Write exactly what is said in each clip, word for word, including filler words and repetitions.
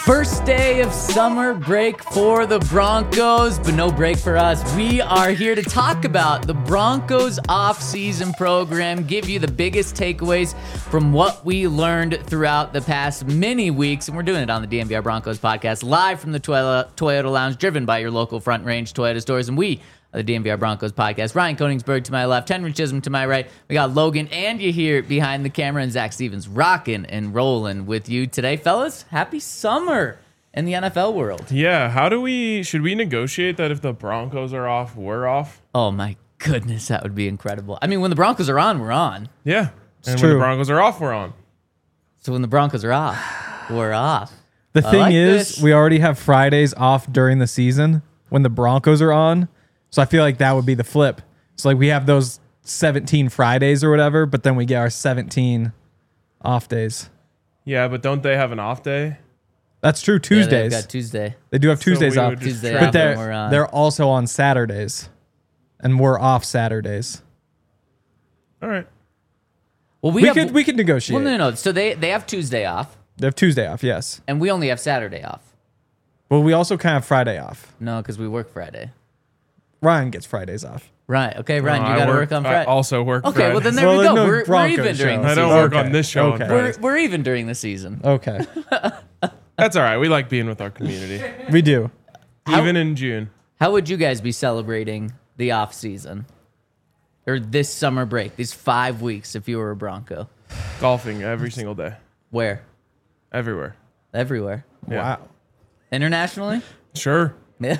First day of summer break for the Broncos, but no break for us. We are here to talk about the Broncos off-season program, give you the biggest takeaways from what we learned throughout the past many weeks, and we're doing it on the D N V R Broncos podcast, live from the Toyota, Toyota Lounge, driven by your local Front Range Toyota stores, and we the D N V R Broncos podcast. Ryan Koenigsberg to my left, Henry Chisholm to my right. We got Logan and you here behind the camera, and Zach Stevens rocking and rolling with you today. Fellas, happy summer in the N F L world. Yeah, how do we, should we negotiate that if the Broncos are off, we're off? Oh my goodness, that would be incredible. I mean, when the Broncos are on, we're on. Yeah, it's and true. when the Broncos are off, we're on. So when the Broncos are off, we're off. The I thing like is, this. we already have Fridays off during the season when the Broncos are on. So I feel like that would be the flip. So like we have those seventeen Fridays or whatever, but then we get our seventeen off days. Yeah, but don't they have an off day? That's true. Yeah, Tuesdays. they've got Tuesday. They do have So Tuesdays we off. would just Tuesday trade off But they're, and we're on. they're also on Saturdays. And we're off Saturdays. All right. Well, we, We have, could we could negotiate. Well, no, no, no. So they, they have Tuesday off, They have Tuesday off, yes. and we only have Saturday off. Well, we also kind of have Friday off. No, because we work Friday. Ryan gets Fridays off. Right. Okay, Ryan, No, you I got to work, on I Friday. also work Okay, Friday. well then there Well, we there's go. no we're, we're Broncos even during show. the I don't season. work Okay. on this show Okay. on We're, Fridays. we're even during the season. Okay. That's all right. We like being with our community. We do. How- Even in June. How would you guys be celebrating the off season or this summer break? These five weeks, if you were a Bronco, Golfing every single day. where? Everywhere. Everywhere, Yeah. Wow. internationally. Sure. Yeah.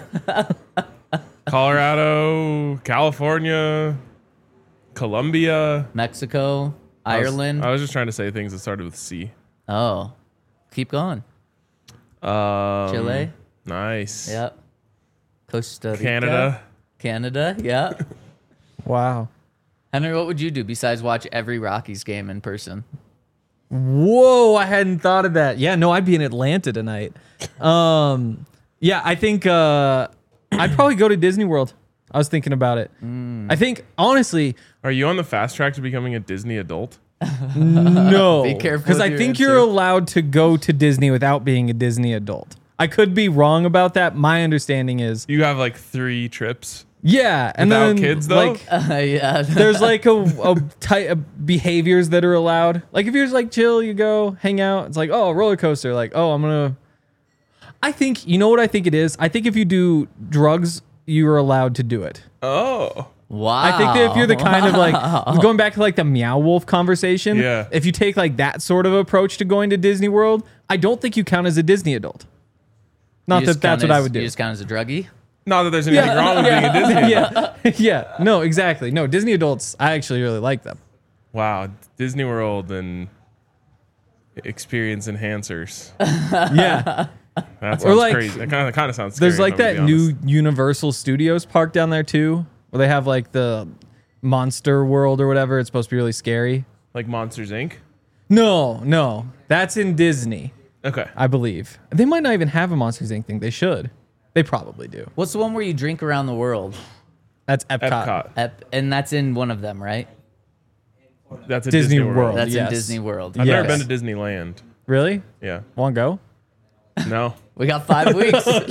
Colorado, California, Colombia. Mexico, I was- Ireland. I was just trying to say things that started with C. Oh, keep going. Um, Chile. Nice. Yep. Costa Rica. Canada. Canada. Yeah. Wow. Henry, what would you do besides watch every Rockies game in person? Whoa, I hadn't thought of that. Yeah, no, I'd be in Atlanta tonight. Um, yeah, I think uh, I'd probably go to Disney World. I was thinking about it. Mm. I think, honestly, Are you on the fast track to becoming a Disney adult? no. Be careful Because with I your think answer. you're allowed to go to Disney without being a Disney adult. I could be wrong about that. My understanding is, You have like three trips. yeah. And Without then, kids, though? like, Uh, yeah. there's like a, a type of behaviors that are allowed. Like if you're just like chill, you go hang out. It's like, oh, roller coaster. Like, oh, I'm gonna. I think you know what I think it is. I think if you do drugs, you are allowed to do it. Oh. Wow. I think that if you're the kind of like going back to like the Meow Wolf conversation, Yeah. if you take like that sort of approach to going to Disney World, I don't think you count as a Disney adult. Not You that just that's count what I as- would do. You just count as a druggie. Not that there's anything wrong with being a Disney adult. yeah, yeah, no, exactly. No, Disney adults, I actually really like them. Wow. Disney World and experience enhancers. Yeah. That sounds Or like- crazy. That kind of kind of sounds scary. There's like if I'm that gonna be honest. new Universal Studios park down there too, where they have like the Monster World or whatever. It's supposed to be really scary. like Monsters Incorporated. No, no, that's in Disney, Okay. I believe. They might not even have a Monsters Incorporated thing. They should. They probably do. What's the one where you drink around the world? That's Epcot. Epcot. Ep- and that's in one of them, right? That's a Disney Disney, World. World. That's yes. in Disney World. I've never Yes. been to Disneyland. Really? Yeah. Want to go? No. We got five weeks. Just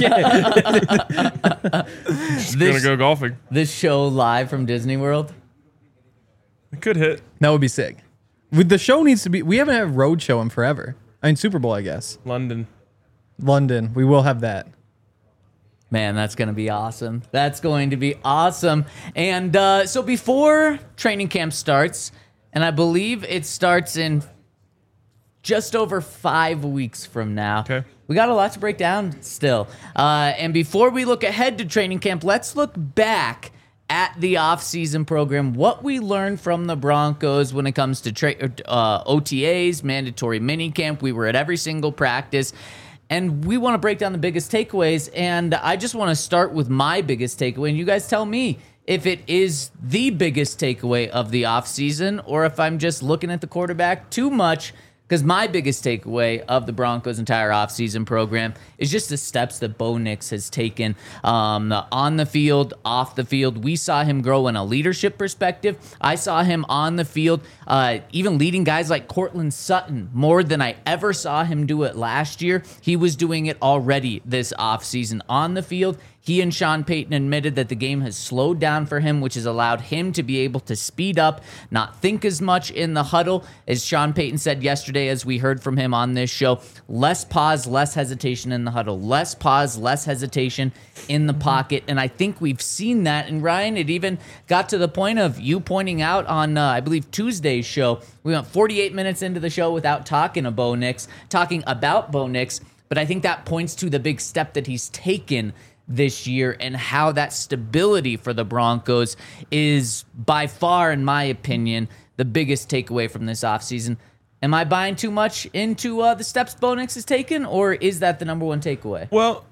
This- gonna go golfing. This show live from Disney World. It could hit. That would be sick. With the show needs to be. We haven't had road show in forever. I mean Super Bowl, I guess. London. London. We will have that. Man, that's going to be awesome. That's going to be awesome. And uh, so before training camp starts, and I believe it starts in just over five weeks from now. Okay. We got a lot to break down still. Uh, and before we look ahead to training camp, let's look back at the off-season program, what we learned from the Broncos when it comes to tra- uh, O T As, mandatory minicamp. We were at every single practice. And we want to break down the biggest takeaways. And I just want to start with my biggest takeaway. And you guys tell me if it is the biggest takeaway of the offseason or if I'm just looking at the quarterback too much Because my biggest takeaway of the Broncos' entire offseason program is just the steps that Bo Nix has taken um, on the field, off the field. We saw him grow in a leadership perspective. I saw him on the field, uh, even leading guys like Cortland Sutton more than I ever saw him do it last year. He was doing it already this offseason on the field. He and Sean Payton admitted that the game has slowed down for him, which has allowed him to be able to speed up, not think as much in the huddle. As Sean Payton said yesterday, as we heard from him on this show, less pause, less hesitation in the huddle. Less pause, less hesitation in the pocket. And I think we've seen that. And Ryan, it even got to the point of you pointing out on, uh, I believe, Tuesday's show. We went forty-eight minutes into the show without talking to Bo Nix, talking about Bo Nix. But I think that points to the big step that he's taken this year and how that stability for the Broncos is by far, in my opinion, the biggest takeaway from this offseason. Am I buying too much into uh, the steps Bo Nix has taken, or is that the number one takeaway? Well,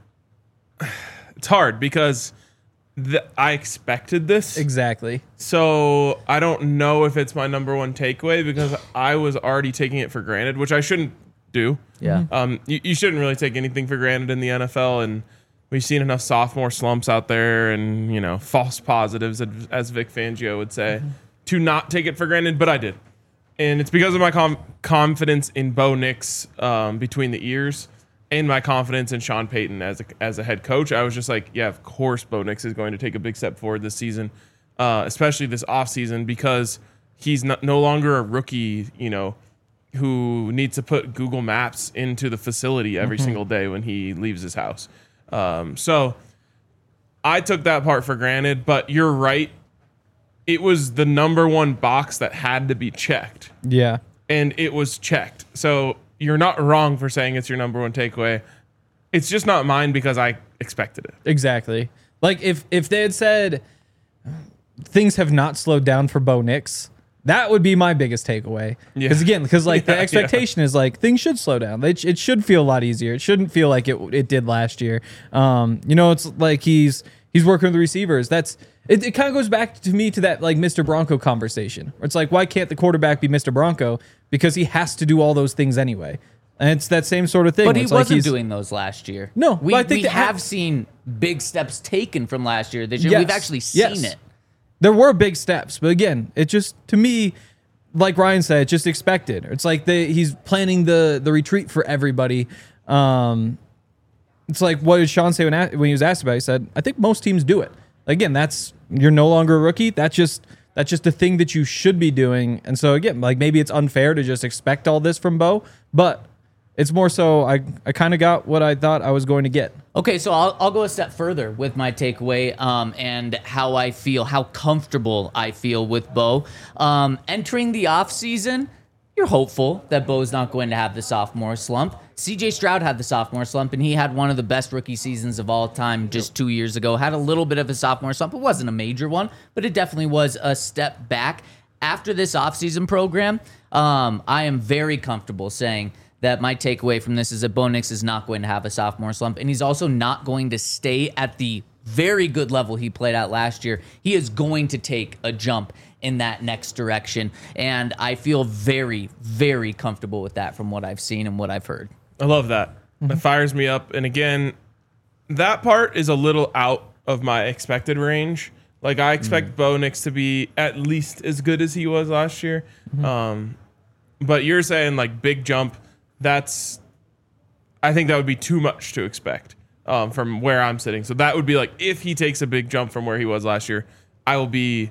it's hard because the, I expected this. Exactly. So I don't know if it's my number one takeaway because I was already taking it for granted, which I shouldn't do. Yeah. Um, you, you shouldn't really take anything for granted in the N F L, and we've seen enough sophomore slumps out there and, you know, false positives, as Vic Fangio would say, mm-hmm. to not take it for granted, but I did. And it's because of my com- confidence in Bo Nix um, between the ears and my confidence in Sean Payton as a, as a head coach. I was just like, yeah, of course Bo Nix is going to take a big step forward this season, uh, especially this offseason, because he's not, no longer a rookie, you know, who needs to put Google Maps into the facility every mm-hmm. single day when he leaves his house. Um, so I took that part for granted, but you're right. It was the number one box that had to be checked. Yeah. And it was checked. So you're not wrong for saying it's your number one takeaway. It's just not mine because I expected it. Exactly. Like if, if they had said things have not slowed down for Bo Nix, that would be my biggest takeaway. Because yeah. again, because like yeah, the expectation yeah. is like things should slow down. It, it should feel a lot easier. It shouldn't feel like it it did last year. Um, you know, it's like he's he's working with the receivers. That's it. It kind of goes back to me to that like Mister Bronco conversation. Where it's like, why can't the quarterback be Mister Bronco? Because he has to do all those things anyway. And it's that same sort of thing. But he it's wasn't like he's, doing those last year. No, we, I think we have ha- seen big steps taken from last year. This year, yes, we've actually seen yes. it. There were big steps, but again, it just to me. Like Ryan said, it's just expected. It's like they, he's planning the the retreat for everybody. Um, it's like, what did Sean say when, when he was asked about it? He said, I think most teams do it. Again, that's you're no longer a rookie. That's just that's just the thing that you should be doing. And so again, like maybe it's unfair to just expect all this from Bo, but it's more so I, I kind of got what I thought I was going to get. Okay, so I'll, I'll go a step further with my takeaway um, and how I feel, how comfortable I feel with Bo. Um, entering the offseason, you're hopeful that Bo's not going to have the sophomore slump. C J Stroud had the sophomore slump, and he had one of the best rookie seasons of all time just two years ago. Had a little bit of a sophomore slump. It wasn't a major one, but it definitely was a step back. After this offseason program, um, I am very comfortable saying that my takeaway from this is that Bo Nix is not going to have a sophomore slump, and he's also not going to stay at the very good level he played at last year. He is going to take a jump in that next direction, and I feel very, very comfortable with that from what I've seen and what I've heard. I love that. Mm-hmm. That fires me up. And again, that part is a little out of my expected range. Like, I expect mm-hmm. Bo Nix to be at least as good as he was last year. Mm-hmm. Um, but you're saying, like, big jump. That's, I think that would be too much to expect um, from where I'm sitting. So that would be like, if he takes a big jump from where he was last year, I will be,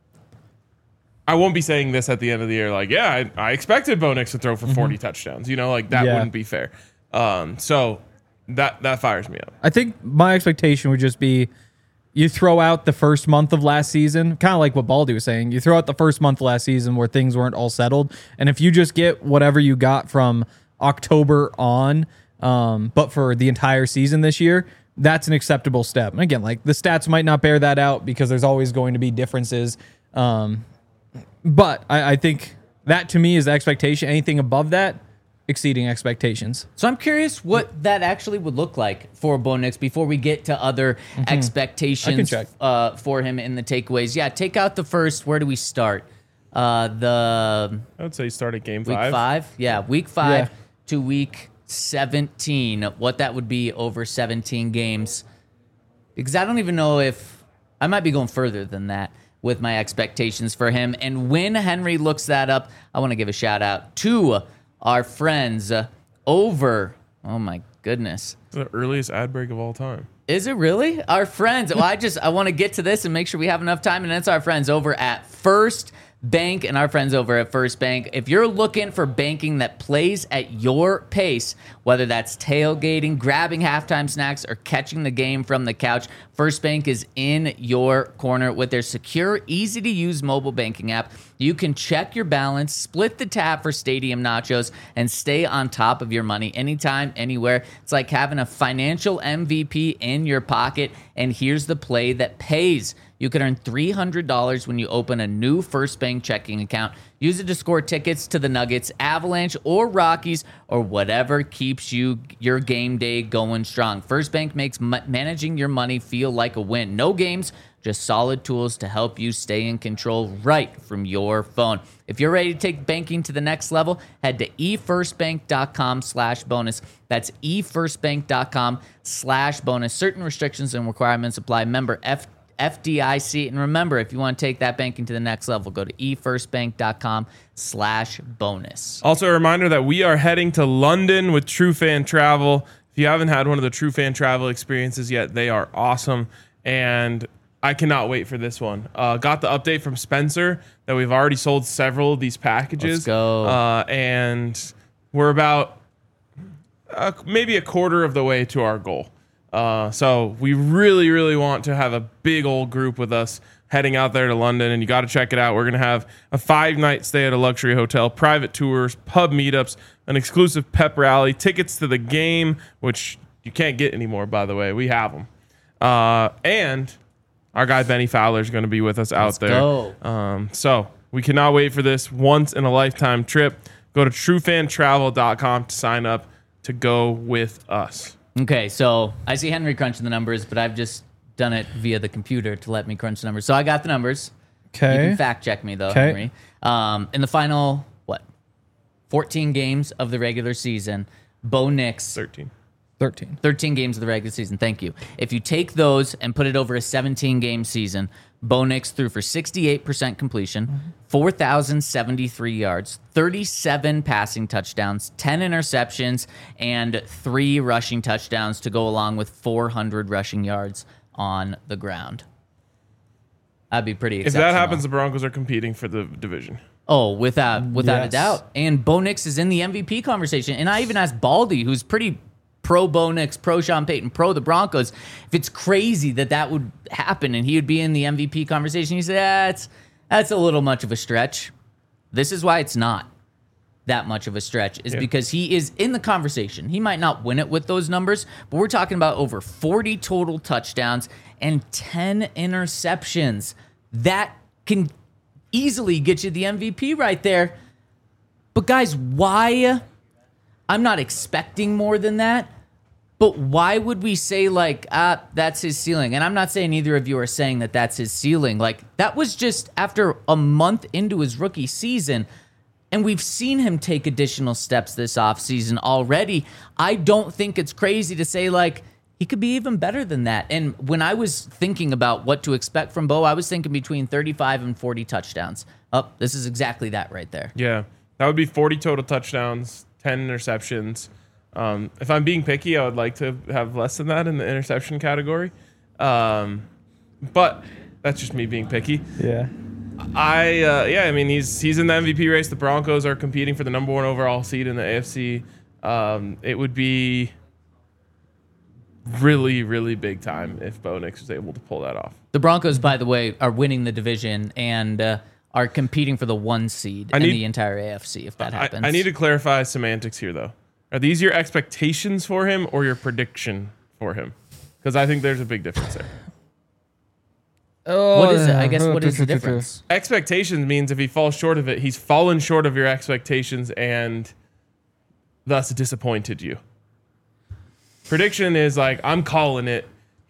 I won't be saying this at the end of the year, like, yeah, I, I expected Bo Nix to throw for forty mm-hmm. touchdowns. You know, like that yeah. wouldn't be fair. Um, so that, that fires me up. I think my expectation would just be, you throw out the first month of last season, kind of like what Baldy was saying. You throw out the first month of last season where things weren't all settled. And if you just get whatever you got from October on, um, but for the entire season this year, that's an acceptable step. And again, like the stats might not bear that out because there's always going to be differences. Um, but I, I think that to me is the expectation. Anything above that, exceeding expectations. So I'm curious what that actually would look like for Bo Nix before we get to other mm-hmm. expectations uh, for him in the takeaways. Yeah, take out the first. Where do we start? uh, the I would say start at game week five. five. Yeah, week five Yeah. to week seventeen. What that would be over seventeen games. Because I don't even know if I might be going further than that with my expectations for him. And when Henry looks that up, I want to give a shout out to our friends uh, over. Oh my goodness. The earliest ad break of all time. Is it really? Our friends. Well, I just I want to get to this and make sure we have enough time. And it's our friends over at First Bank and our friends over at First Bank. If you're looking for banking that plays at your pace, whether that's tailgating, grabbing halftime snacks, or catching the game from the couch, First Bank is in your corner with their secure, easy-to-use mobile banking app. You can check your balance, split the tab for stadium nachos, and stay on top of your money anytime, anywhere. It's like having a financial M V P in your pocket, and here's the play that pays. You can earn three hundred dollars when you open a new First Bank checking account. Use it to score tickets to the Nuggets, Avalanche, or Rockies, or whatever keeps you your game day going strong. First Bank makes ma- managing your money feel like a win. No games, just solid tools to help you stay in control right from your phone. If you're ready to take banking to the next level, head to efirstbank.com slash bonus. That's efirstbank.com slash bonus. Certain restrictions and requirements apply. Member F. F D I C. And remember, if you want to take that banking to the next level, go to efirstbank.com slash bonus. Also, a reminder that we are heading to London with True Fan Travel. If you haven't had one of the True Fan Travel experiences yet, they are awesome. And I cannot wait for this one. Uh, got the update from Spencer that we've already sold several of these packages. Let's go. Uh, and we're about uh, maybe a quarter of the way to our goal. Uh, so we really, really want to have a big old group with us heading out there to London, and you got to check it out. We're going to have a five-night stay at a luxury hotel, private tours, pub meetups, an exclusive pep rally, tickets to the game, which you can't get anymore, by the way. We have them. Uh, and our guy Benny Fowler is going to be with us out Let's there. go. Um, so we cannot wait for this once-in-a-lifetime trip. Go to true fan travel dot com to sign up to go with us. Okay, so I see Henry crunching the numbers, but I've just done it via the computer to let me crunch the numbers. So I got the numbers. You Okay. can fact check me, though, 'Kay. Henry. Um, in the final, what, fourteen games of the regular season, Bo Nix, thirteen. thirteen. thirteen games of the regular season, thank you. If you take those and put it over a seventeen-game season, Bo Nix threw for sixty-eight percent completion, four thousand seventy-three yards, thirty-seven passing touchdowns, ten interceptions, and three rushing touchdowns to go along with four hundred rushing yards on the ground. That'd be pretty If exceptional. that happens, the Broncos are competing for the division. Oh, without without a Yes. doubt. And Bo Nix is in the M V P conversation. And I even asked Baldy, who's pretty pro Bo Nix, pro Sean Payton, pro the Broncos, if it's crazy that that would happen and he would be in the M V P conversation. He said, that's, that's a little much of a stretch. This is why it's not that much of a stretch, is Yeah. because he is in the conversation. He might not win it with those numbers, but we're talking about over forty total touchdowns and ten interceptions. That can easily get you the M V P right there. But guys, why? I'm not expecting more than that, but why would we say like, ah, that's his ceiling? And I'm not saying either of you are saying that that's his ceiling. Like, that was just after a month into his rookie season, and we've seen him take additional steps this offseason already. I don't think it's crazy to say like, he could be even better than that. And when I was thinking about what to expect from Bo, I was thinking between thirty-five and forty touchdowns. Oh, this is exactly that right there. Yeah, that would be forty total touchdowns, ten interceptions. Um, if I'm being picky, I would like to have less than that in the interception category. Um, but that's just me being picky. Yeah. I uh, yeah, I mean he's he's in the M V P race. The Broncos are competing for the number one overall seed in the A F C. Um, it would be really really big time if Bo Nix was able to pull that off. The Broncos, by the way, are winning the division and uh, are competing for the one seed I in need- the entire A F C, if that I, happens. I need to clarify semantics here though. Are these your expectations for him or your prediction for him? Because I think there's a big difference there. Oh, What is it? I guess what is the difference? Expectations means if he falls short of it, he's fallen short of your expectations and thus disappointed you. Prediction is like, I'm calling it.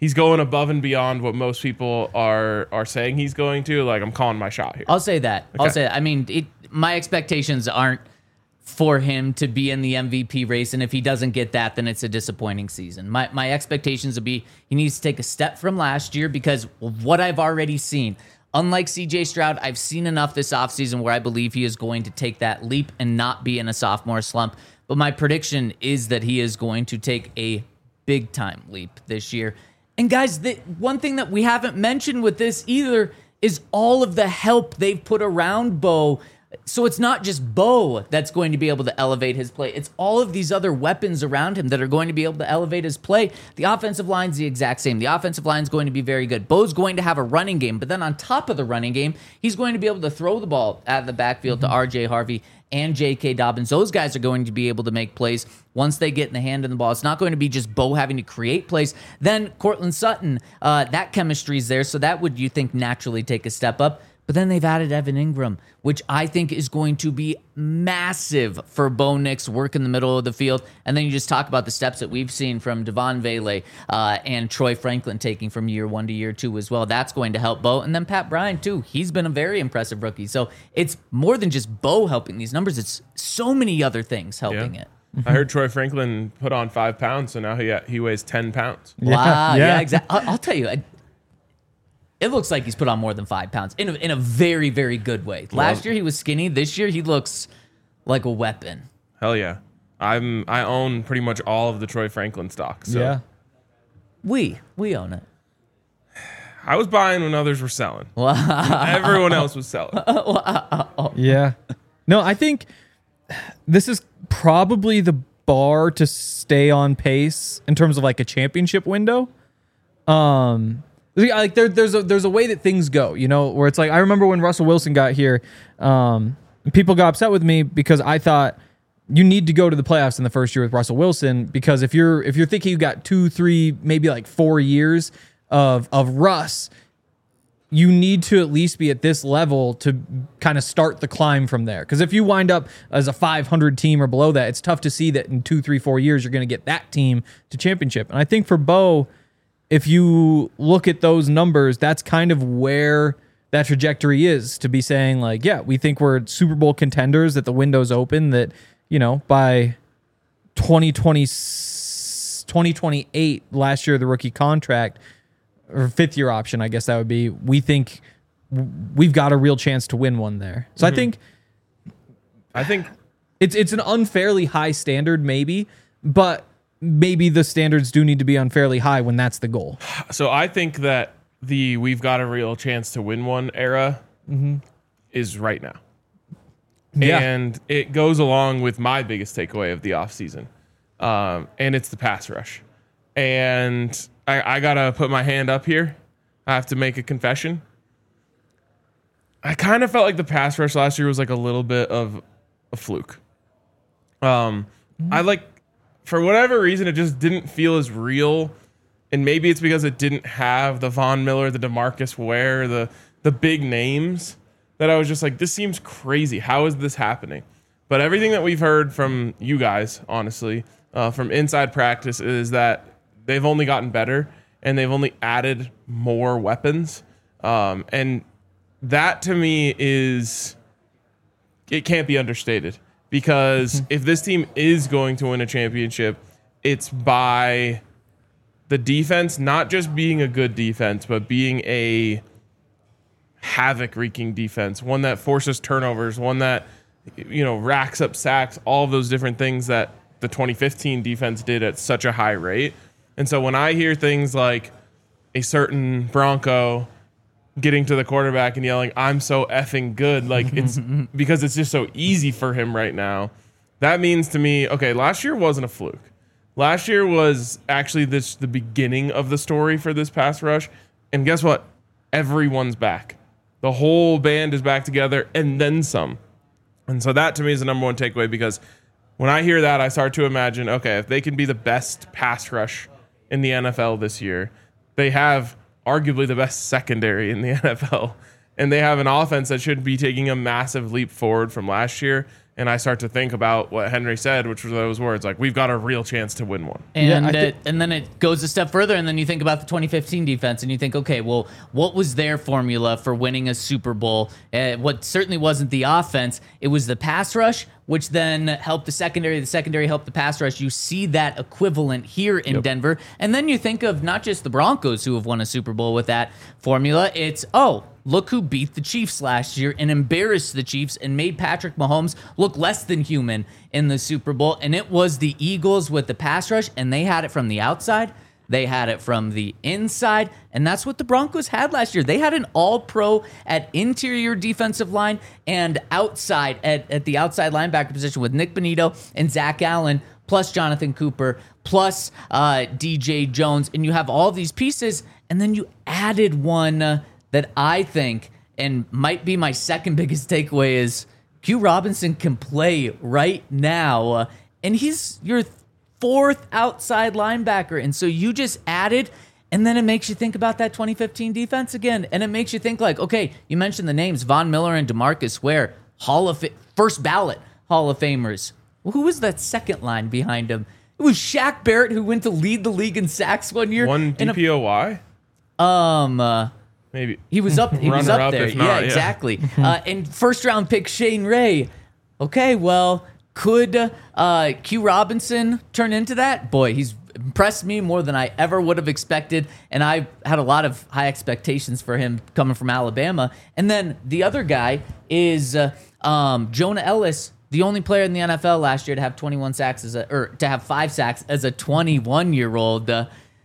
he's going above and beyond what most people are are saying he's going to. Like, I'm calling my shot here. I'll say that. I'll Okay. say that. I mean, it, my expectations aren't for him to be in the M V P race, and if he doesn't get that, then it's a disappointing season. My my expectations would be he needs to take a step from last year because of what I've already seen. Unlike C J Stroud, I've seen enough this offseason where I believe he is going to take that leap and not be in a sophomore slump. But my prediction is that he is going to take a big time leap this year. And guys, the one thing that we haven't mentioned with this either is all of the help they've put around Bo. So it's not just Bo that's going to be able to elevate his play. It's all of these other weapons around him that are going to be able to elevate his play. The offensive line's the exact same. The offensive line's going to be very good. Bo's going to have a running game, but then on top of the running game, he's going to be able to throw the ball out of the backfield mm-hmm. to R J Harvey and J K Dobbins. Those guys are going to be able to make plays once they get in the hand of the ball. It's not going to be just Bo having to create plays. Then Cortland Sutton, uh, that chemistry is there, so that would, you think, naturally take a step up. But then they've added Evan Ingram, which I think is going to be massive for Bo Nix, work in the middle of the field. And then you just talk about the steps that we've seen from Devon Vele uh, and Troy Franklin taking from year one to year two as well. That's going to help Bo. And then Pat Bryant, too. He's been a very impressive rookie. So it's more than just Bo helping these numbers. It's so many other things helping Yeah. it. I heard Troy Franklin put on five pounds, so now he he weighs ten pounds. Wow. Yeah, yeah. exactly. I'll, I'll tell you. I, It looks like he's put on more than five pounds in a, in a very, very good way. Last year he was skinny. This year he looks like a weapon. Hell yeah. I'm I own pretty much all of the Troy Franklin stock. So Yeah. We we own it. I was buying when others were selling. Everyone else was selling. Yeah. No, I think this is probably the bar to stay on pace in terms of like a championship window. Um, like there, there's a there's a way that things go, you know, where it's like I remember when Russell Wilson got here, um, people got upset with me because I thought you need to go to the playoffs in the first year with Russell Wilson because if you're if you're thinking you got two, three, maybe like four years of of Russ, you need to at least be at this level to kind of start the climb from there. Because if you wind up as a five hundred team or below that, it's tough to see that in two, three, four years you're going to get that team to championship. And I think for Bo, if you look at those numbers, that's kind of where that trajectory is to be saying like, yeah, we think we're Super Bowl contenders, that the window's open, that, you know, by twenty twenty, twenty twenty-eight, last year, the rookie contract, or fifth year option, I guess that would be, we think we've got a real chance to win one there. So mm-hmm. I think I think it's it's an unfairly high standard, maybe, but maybe the standards do need to be unfairly high when that's the goal. So I think that the we've got a real chance to win one era mm-hmm. is right now. Yeah. And it goes along with my biggest takeaway of the offseason. Um, and it's the pass rush. And I, I got to put my hand up here. I have to make a confession. I kind of felt like the pass rush last year was like a little bit of a fluke. Um, mm-hmm. I like, for whatever reason, it just didn't feel as real. And maybe it's because it didn't have the Von Miller, the DeMarcus Ware, the the big names, that I was just like, this seems crazy. How is this happening? But everything that we've heard from you guys, honestly, uh, from inside practice, is that they've only gotten better and they've only added more weapons. Um, and that to me is, it can't be understated. Because if this team is going to win a championship, it's by the defense not just being a good defense, but being a havoc-wreaking defense, one that forces turnovers, one that, you know, racks up sacks, all of those different things that the twenty fifteen defense did at such a high rate. And so when I hear things like a certain Bronco getting to the quarterback and yelling, "I'm so effing good," like it's because it's just so easy for him right now. That means to me, okay, last year wasn't a fluke. Last year was actually this the beginning of the story for this pass rush. And guess what? Everyone's back. The whole band is back together and then some. And so that to me is the number one takeaway, because when I hear that, I start to imagine, okay, if they can be the best pass rush in the N F L this year, they have arguably the best secondary in the N F L, and they have an offense that should be taking a massive leap forward from last year. And I start to think about what Henry said, which were those words, like, we've got a real chance to win one. And Yeah, I it, thi- and then it goes a step further, and then you think about the twenty fifteen defense, and you think, okay, well, what was their formula for winning a Super Bowl? Uh, what certainly wasn't the offense. It was the pass rush, which then helped the secondary. The secondary helped the pass rush. You see that equivalent here in Yep. Denver. And then you think of not just the Broncos who have won a Super Bowl with that formula. It's, oh, look who beat the Chiefs last year and embarrassed the Chiefs and made Patrick Mahomes look less than human in the Super Bowl. And it was the Eagles with the pass rush, and they had it from the outside. They had it from the inside, and that's what the Broncos had last year. They had an all-pro at interior defensive line and outside at, at the outside linebacker position with Nick Bonito and Zach Allen, plus Jonathan Cooper, plus uh, D J Jones, and you have all these pieces, and then you added one uh, that I think, and might be my second biggest takeaway, is Q Robinson can play right now, uh, and he's your fourth outside linebacker. And so you just added, and then it makes you think about that twenty fifteen defense again. And it makes you think like, okay, you mentioned the names, Von Miller and DeMarcus Ware, Hall of Fa- first ballot Hall of Famers. Well, who was that second line behind him? It was Shaq Barrett, who went to lead the league in sacks one year. One And D P O Y? a- um, uh, Maybe. he was up. He was Runner up up, there. if not, yeah, yeah. exactly. uh, and first round pick Shane Ray. Okay, well, could uh, Q Robinson turn into that? Boy, he's impressed me more than I ever would have expected, and I had a lot of high expectations for him coming from Alabama. And then the other guy is uh, um, Jonah Ellis, the only player in the N F L last year to have twenty-one sacks as a, or to have five sacks as a twenty-one year old. Uh,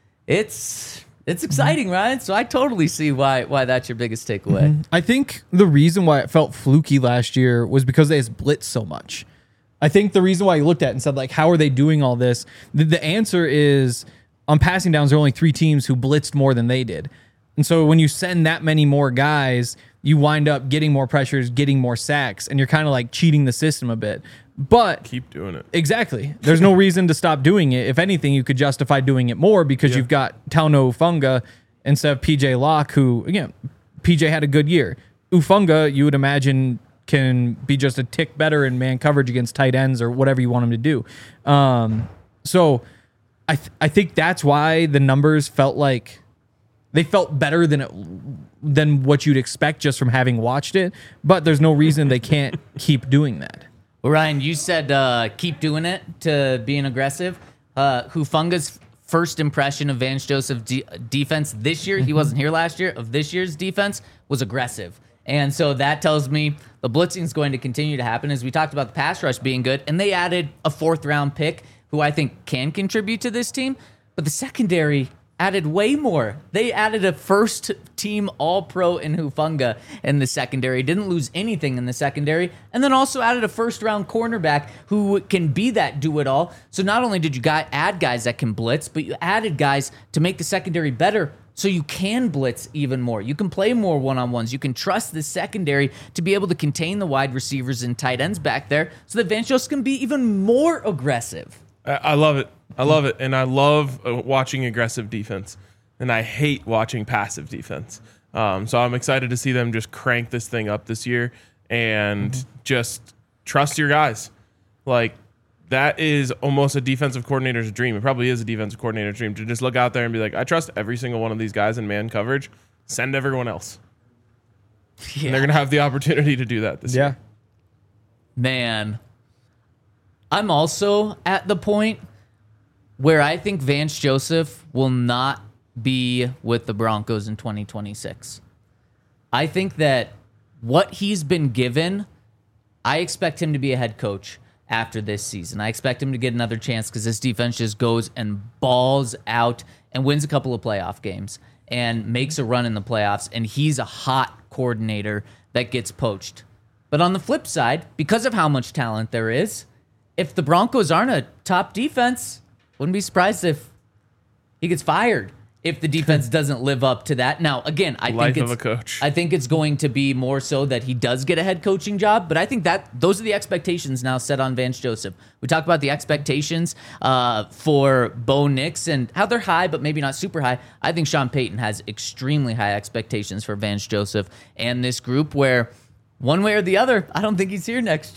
it's it's exciting, Ryan. So I totally see why why that's your biggest takeaway. I think the reason why it felt fluky last year was because they just blitzed so much. I think the reason why you looked at it and said, like, how are they doing all this? The, the answer is on passing downs, there are only three teams who blitzed more than they did. And so when you send that many more guys, you wind up getting more pressures, getting more sacks, and you're kind of like cheating the system a bit. But Keep doing it. exactly, there's no reason to stop doing it. If anything, you could justify doing it more because Yeah. you've got Tauno Ufunga instead of P J Locke, who, again, P J had a good year. Ufunga, you would imagine, can be just a tick better in man coverage against tight ends or whatever you want him to do. Um, so I th- I think that's why the numbers felt like they felt better than it than what you'd expect just from having watched it. But there's no reason they can't keep doing that. Well, Ryan, you said uh, keep doing it to being aggressive. Uh, Hufunga's first impression of Vance Joseph de- defense this year, he wasn't here last year, of this year's defense was aggressive. And so that tells me the blitzing is going to continue to happen, as we talked about the pass rush being good. And they added a fourth round pick who I think can contribute to this team. But the secondary added way more. They added a first team all pro in Hufunga in the secondary, didn't lose anything in the secondary, and then also added a first round cornerback who can be that do it all. So not only did you guy, add guys that can blitz, but you added guys to make the secondary better. So you can blitz even more. You can play more one-on-ones. You can trust the secondary to be able to contain the wide receivers and tight ends back there so that Vance Joseph can be even more aggressive. I, I love it. I love it. And I love uh, watching aggressive defense. And I hate watching passive defense. Um, so I'm excited to see them just crank this thing up this year and mm-hmm. just trust your guys. Like, that is almost a defensive coordinator's dream. It probably is a defensive coordinator's dream to just look out there and be like, I trust every single one of these guys in man coverage. Send everyone else. Yeah. And they're going to have the opportunity to do that this Yeah. year. Man, I'm also at the point where I think Vance Joseph will not be with the Broncos in twenty twenty-six. I think that what he's been given, I expect him to be a head coach after this season. I expect him to get another chance because this defense just goes and balls out and wins a couple of playoff games and makes a run in the playoffs, and he's a hot coordinator that gets poached. But on the flip side, because of how much talent there is, if the Broncos aren't a top defense, wouldn't be surprised if he gets fired if the defense doesn't live up to that. Now, again, I Life think of it's a coach. I think it's going to be more so that he does get a head coaching job, but I think that those are the expectations now set on Vance Joseph. We talked about the expectations uh, for Bo Nix and how they're high, but maybe not super high. I think Sean Payton has extremely high expectations for Vance Joseph and this group where one way or the other, I don't think he's here next year.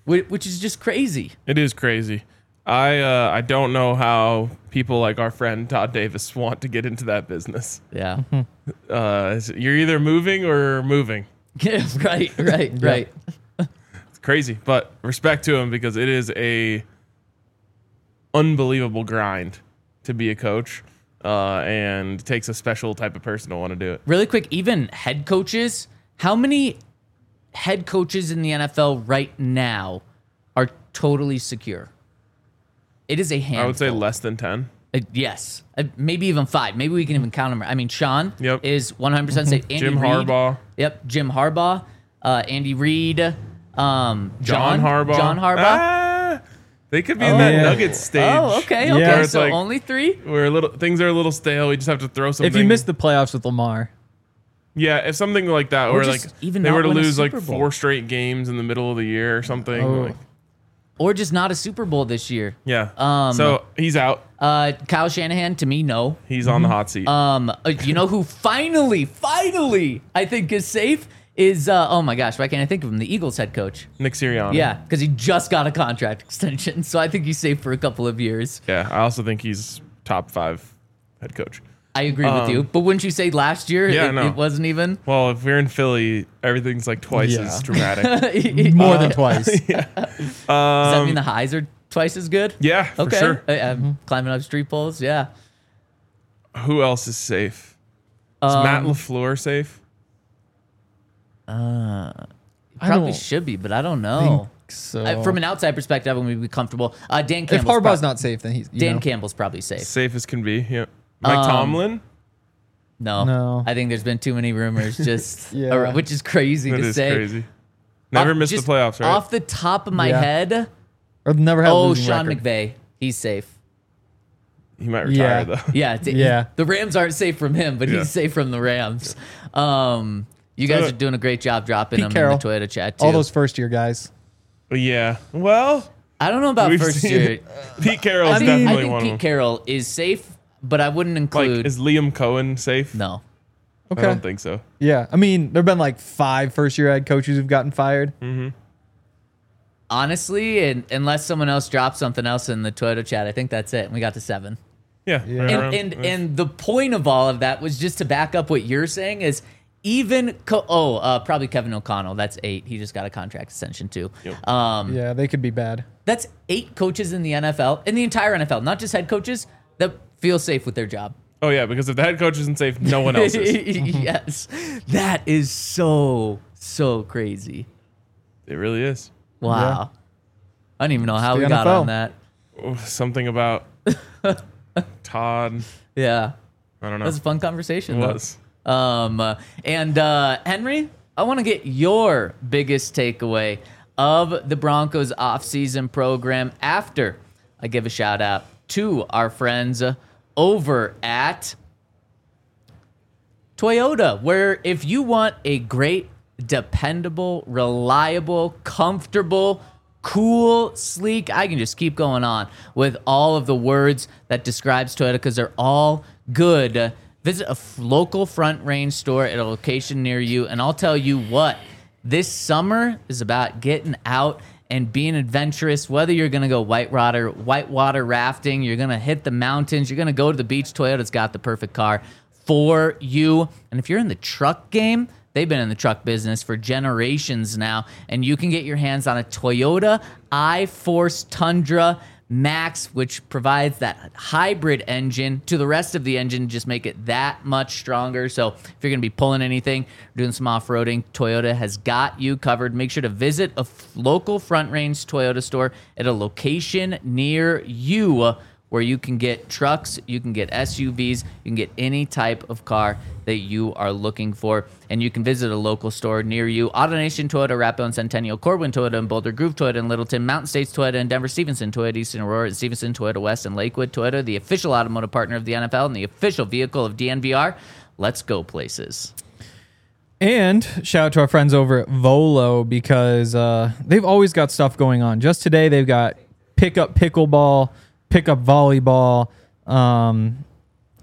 whi- which is just crazy. It is crazy. I uh, I don't know how people like our friend Todd Davis want to get into that business. Yeah. Uh, you're either moving or moving. Yeah, right, right, right. It's crazy, but respect to him because it is a unbelievable grind to be a coach, uh, and it takes a special type of person to want to do it. Really quick, even head coaches, how many head coaches in the N F L right now are totally secure? It is a handful. I would say less than ten. Uh, yes, uh, maybe even five. Maybe we can even count them. I mean, Sean Yep. is one hundred percent safe. Andy Jim Reid, Harbaugh. Yep, Jim Harbaugh, uh, Andy Reid, um, John, John Harbaugh. John Harbaugh. Ah, they could be in that yeah. Nuggets stage. Oh, okay, Yeah. okay. Where it's So like- only three. Where a little things are a little stale. We just have to throw something. If you miss the playoffs with Lamar, yeah, if something like that, Or or just like even they not were to win a lose like Super Bowl. four straight games in the middle of the year or something. Oh. Like, Or just not a Super Bowl this year. yeah. Um, so he's out. Uh, Kyle Shanahan, to me, no. He's on the hot seat. Um, uh, you know who finally, finally, I think is safe is uh, oh my gosh, why can't I think of him? The Eagles head coach. Nick Sirianni. Yeah, because he just got a contract extension, so I think he's safe for a couple of years. Yeah. I also think he's top five head coach. I agree with Um, you, but wouldn't you say last year Yeah, it, no. it wasn't even? Well, if we're in Philly, everything's like twice Yeah. as dramatic. more than twice. Does that mean the highs are twice as good? yeah, for Okay. sure. Uh, um, Climbing up street poles, yeah. Who else is safe? Is Um, Matt LaFleur safe? I Probably don't should be, but I don't know. So Uh, from an outside perspective, I would be comfortable. Uh, Dan if Campbell's, Harbaugh's prob- not safe, then he's you Dan know. Campbell's probably safe. Safe as can be. Yeah. Mike Um, Tomlin. No, No. I think there's been too many rumors, just Yeah. or- which is crazy That to is say. crazy. Never Off- missed the just playoffs, right? Off the top of my Yeah. head, or never had a oh, losing Sean record. McVay, he's safe. he might retire Yeah. though. Yeah, t- Yeah. The Rams aren't safe from him, but Yeah. he's safe from the Rams. Um, you guys So- are doing a great job dropping Pete them Carroll. in the Toyota chat too. All those first year guys. Yeah. Well, I don't know about we've first seen year. Pete Carroll's I mean, definitely I think one Pete of them. Carroll is safe, but I wouldn't Like, include. is Liam Cohen safe? no. I Okay. don't think so. Yeah. I mean, there have been like five first year head coaches who've gotten fired. Honestly, and, unless someone else drops something else in the Toyota chat, I think that's it. And we got to seven. Yeah. Yeah. right And around- and, yeah. and the point of all of that was just to back up what you're saying is even co- oh uh, probably Kevin O'Connell, that's eight. He just got a contract extension too. Yep. Um, Yeah, they could be bad. That's eight coaches in the N F L, in the entire N F L, not just head coaches that feel safe with their job. Oh yeah, because if the head coach isn't safe, no one else is. Yes, that is so so crazy. It really is. Wow, I don't even know how the we N F got L. on that. Oh, something about Todd. Yeah, I don't that know. was a fun conversation. It though. was. Um, uh, and uh, Henry, I want to get your biggest takeaway of the Broncos offseason program after I give a shout out to our friends uh, over at Toyota, where if you want a great, dependable, reliable, comfortable, cool, sleek, I can just keep going on with all of the words that describes Toyota because they're all good. Uh, visit a f- local Front Range store at a location near you, and I'll tell you what, this summer is about getting out and being adventurous, whether you're going to go whitewater, whitewater rafting, you're going to hit the mountains, you're going to go to the beach, Toyota's got the perfect car for you. And if you're in the truck game, they've been in the truck business for generations now, and you can get your hands on a Toyota iForce Tundra Max, which provides that hybrid engine to the rest of the engine, just make it that much stronger. So if you're going to be pulling anything, doing some off-roading, Toyota has got you covered. Make sure to visit a f- local Front Range Toyota store at a location near you where you can get trucks, you can get S U Vs, you can get any type of car that you are looking for. And you can visit a local store near you. AutoNation Toyota, Rapo and Centennial, Corwin Toyota and Boulder, Groove Toyota and Littleton, Mountain States Toyota and Denver, Stevenson Toyota, Eastern Aurora, Stevenson Toyota West and Lakewood Toyota, the official automotive partner of the N F L and the official vehicle of D N V R. Let's go places. And shout out to our friends over at Volo because uh, they've always got stuff going on. Just today, they've got pickup pickleball, pickup volleyball, um,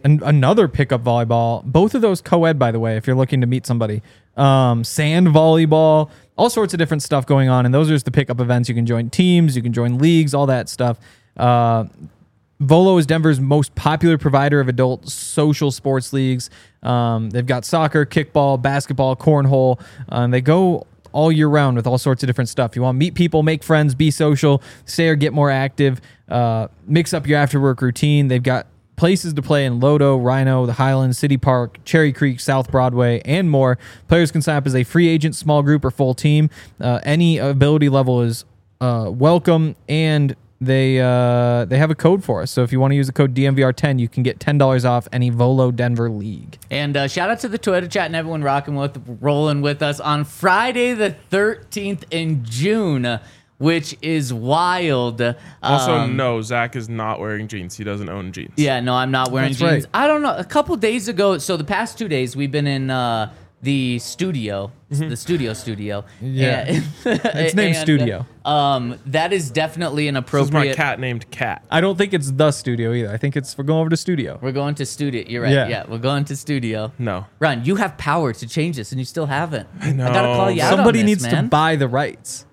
an, another pickup volleyball. Both of those co-ed, by the way, if you're looking to meet somebody. Um, sand volleyball, all sorts of different stuff going on. And those are just the pickup events. You can join teams, you can join leagues, all that stuff. Uh, Volo is Denver's most popular provider of adult social sports leagues. Um, they've got soccer, kickball, basketball, cornhole. Um, they go all year round with all sorts of different stuff. You want to meet people, make friends, be social, stay or get more active, uh, mix up your after work routine. They've got places to play in Lodo, Rhino, the Highlands, City Park, Cherry Creek, South Broadway, and more. Players can sign up as a free agent, small group, or full team. Uh, any ability level is uh, welcome, and they uh, they have a code for us. So if you want to use the code D M V R ten, you can get ten dollars off any Volo Denver league. And uh, shout out to the Twitter chat and everyone rocking with, rolling with us on Friday the thirteenth in June, which is wild. Also, Um, no, Zach is not wearing jeans. He doesn't own jeans. Yeah, no, I'm not wearing That's jeans. right. I don't know. A couple days ago, so the past two days, we've been in uh, the studio, the studio studio. Yeah. And- It's named and, Studio. Um, that is definitely an This is my appropriate. cat named Cat. I don't think it's the studio either. I think it's we're going over to studio. We're going to studio. You're right. Yeah. Yeah. we're going to studio. No. Ron, you have power to change this, and you still haven't. I know. gotta call you out Somebody on this, needs man. to buy the rights.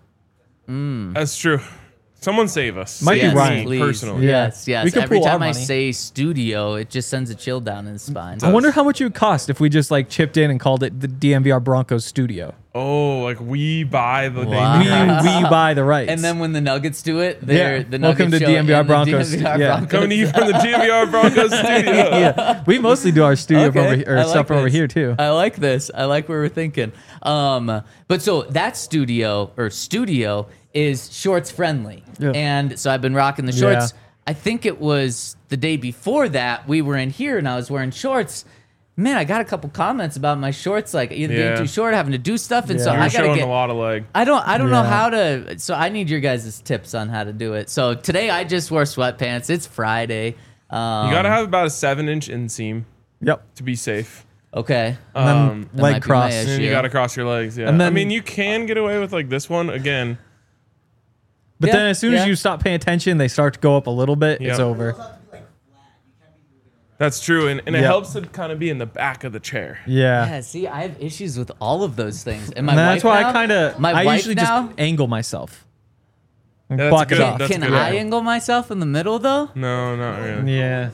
That's true. Someone save us. Might be Save Ryan. me please. personally. Yeah. Yes, yes. We could Every pool our time I money. say studio, it just sends a chill down his spine. I wonder how much it would cost if we just like chipped in and called it the D M V R Broncos studio. Oh, like we buy the Wow. We, name. we buy the rights. And then when the Nuggets do it, they're Yeah. the Nuggets Welcome to show D M V R and the Broncos. D M V R Yeah. Broncos. Coming to you from the D M V R Broncos studio. yeah, we mostly do our studio from over, Okay, here- or I like stuff from over this. here too. I like this. I like where we're thinking. Um, but so that studio or studio is shorts friendly, Yeah. and so I've been rocking the shorts. Yeah. I think it was the day before that we were in here and I was wearing shorts. Man, I got a couple comments about my shorts, like either being Yeah. too short, having to do stuff, and so Yeah. You're I gotta showing get. a lot of leg. I don't I don't know Yeah. how to so I need your guys' tips on how to do it. So today I just wore sweatpants. It's Friday. Um, You gotta have about a seven inch inseam Yep. to be safe. okay. And then Um, That leg might be cross. my And then issue. you gotta cross your legs. Yeah. And I then- mean, you can get away with like this one again. But Yeah, then as soon yeah. as you stop paying attention, they start to go up a little bit. It's Yeah. over. That's true, and, and it Yeah. helps to kind of be in the back of the chair. Yeah. Yeah, see, I have issues with all of those things. And my And that's wife why now, I kind of my I wife usually now, just angle myself. And That's block good. it off. That's can good. I angle myself in the middle though? No, not really. Yeah.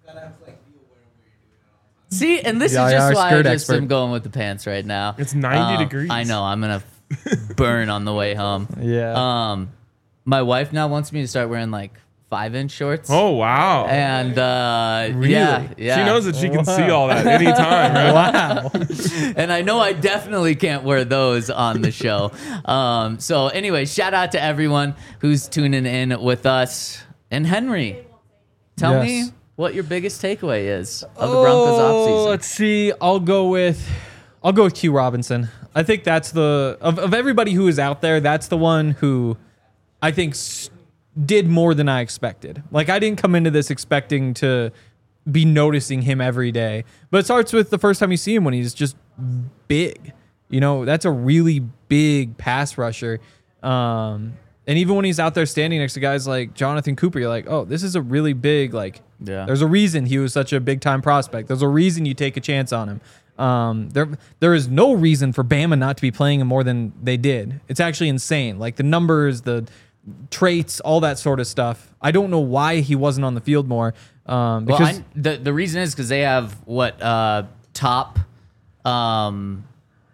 See, and this Yeah, is yeah, just our why I skirt just expert. am going with the pants right now. It's ninety Um, degrees. I know. I'm gonna burn on the way home. Yeah. Um, my wife now wants me to start wearing like five inch shorts. Oh wow. And uh, Really? yeah, yeah. She knows that she can Wow. see all that anytime, right? Wow. And I know I definitely can't wear those on the show. Um, so anyway, shout out to everyone who's tuning in with us. And Henry, tell me Yes. what your biggest takeaway is of the Broncos offseason. Let's see. I'll go with I'll go with Q Robinson. I think that's the of, of everybody who is out there, that's the one who I think s- did more than I expected. Like I didn't come into this expecting to be noticing him every day. But it starts with the first time you see him when he's just big. You know, that's a really big pass rusher. Um, and even when he's out there standing next to guys like Jonathan Cooper, you're like, oh, this is a really big, like, Yeah. there's a reason he was such a big time prospect. There's a reason you take a chance on him. Um, there, there is no reason for Bama not to be playing him more than they did. It's actually insane. Like the numbers, the traits, all that sort of stuff. I don't know why he wasn't on the field more. Um, Well, because I, the the reason is because they have what uh, top um,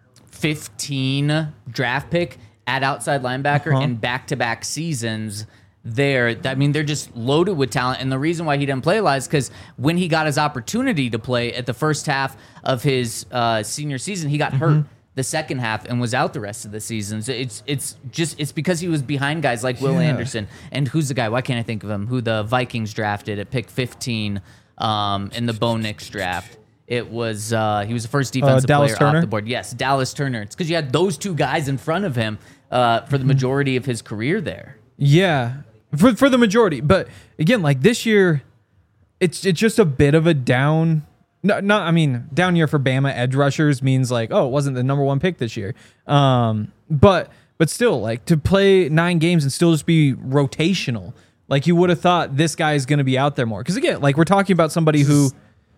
fifteen draft pick at outside linebacker Uh-huh. in back to back seasons. There, I mean, they're just loaded with talent, and the reason why he didn't play a lot is because when he got his opportunity to play at the first half of his uh, senior season, he got Mm-hmm. hurt the second half and was out the rest of the season. So it's it's just it's because he was behind guys like Will Yeah. Anderson and who's the guy? Why can't I think of him? Who the Vikings drafted at pick fifteen um, in the Bo Nix draft. It was uh, he was the first defensive Dallas player Turner? off the board. Yes, Dallas Turner. It's because you had those two guys in front of him uh, for the majority of his career there. yeah, for for the majority. But again, like this year, it's it's just a bit of a down. No, not I mean down year for Bama edge rushers means like, oh, it wasn't the number one pick this year. Um, but but still, like to play nine games and still just be rotational. Like you would have thought this guy is going to be out there more. Because again, like we're talking about somebody who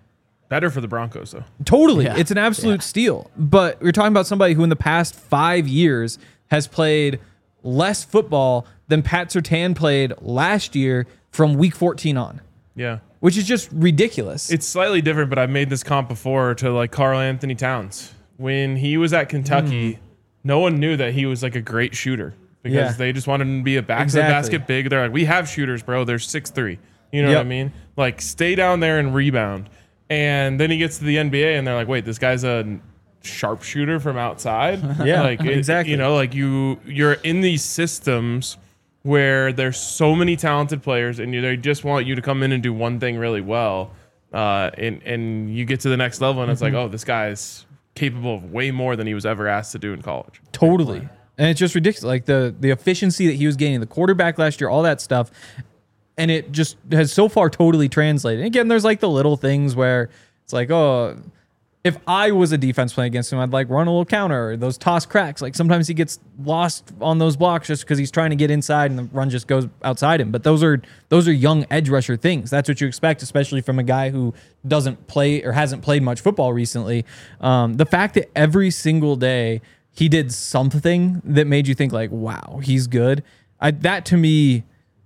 Better for the Broncos, though. Totally. Yeah. It's an absolute Yeah. steal. But we're talking about somebody who in the past five years has played less football than Pat Surtain played last year from week fourteen on, Yeah. which is just ridiculous. It's slightly different, but I've made this comp before to like Karl Anthony Towns. When he was at Kentucky, Mm. no one knew that he was like a great shooter because Yeah. they just wanted him to be a back Exactly. to the basket big. They're like, we have shooters, bro. They're six three. You know Yep. what I mean? Like, stay down there and rebound. And then he gets to the N B A, and they're like, wait, this guy's a sharpshooter from outside. Yeah, like it- exactly. You know, like you you're in these systems where there's so many talented players, and you, they just want you to come in and do one thing really well. Uh, and and you get to the next level, and it's Mm-hmm. like, oh, this guy's capable of way more than he was ever asked to do in college. Totally. And it's just ridiculous. Like the the efficiency that he was gaining, the quarterback last year, all that stuff. And it just has so far totally translated. And again, there's like the little things where it's like, oh, if I was a defense playing against him, I'd like run a little counter or those toss cracks. Like sometimes he gets lost on those blocks just because he's trying to get inside and the run just goes outside him. But those are those are young edge rusher things. That's what you expect, especially from a guy who doesn't play or hasn't played much football recently. Um, the fact that every single day he did something that made you think like, wow, he's good. I, that to me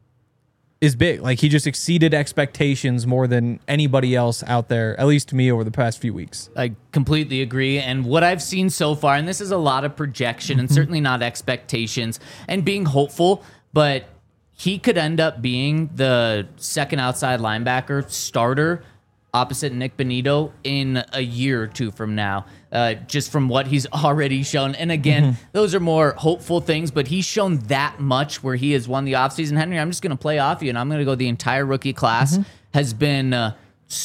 is big. Like he just exceeded expectations more than anybody else out there, at least to me over the past few weeks. I completely agree. And what I've seen so far, and this is a lot of projection and certainly not expectations and being hopeful, but he could end up being the second outside linebacker starter opposite Nick Bonito in a year or two from now, uh, just from what he's already shown. And again, mm-hmm. those are more hopeful things, but he's shown that much where he has won the offseason. Henry, I'm just going to play off you, and I'm going to go the entire rookie class mm-hmm. has been uh,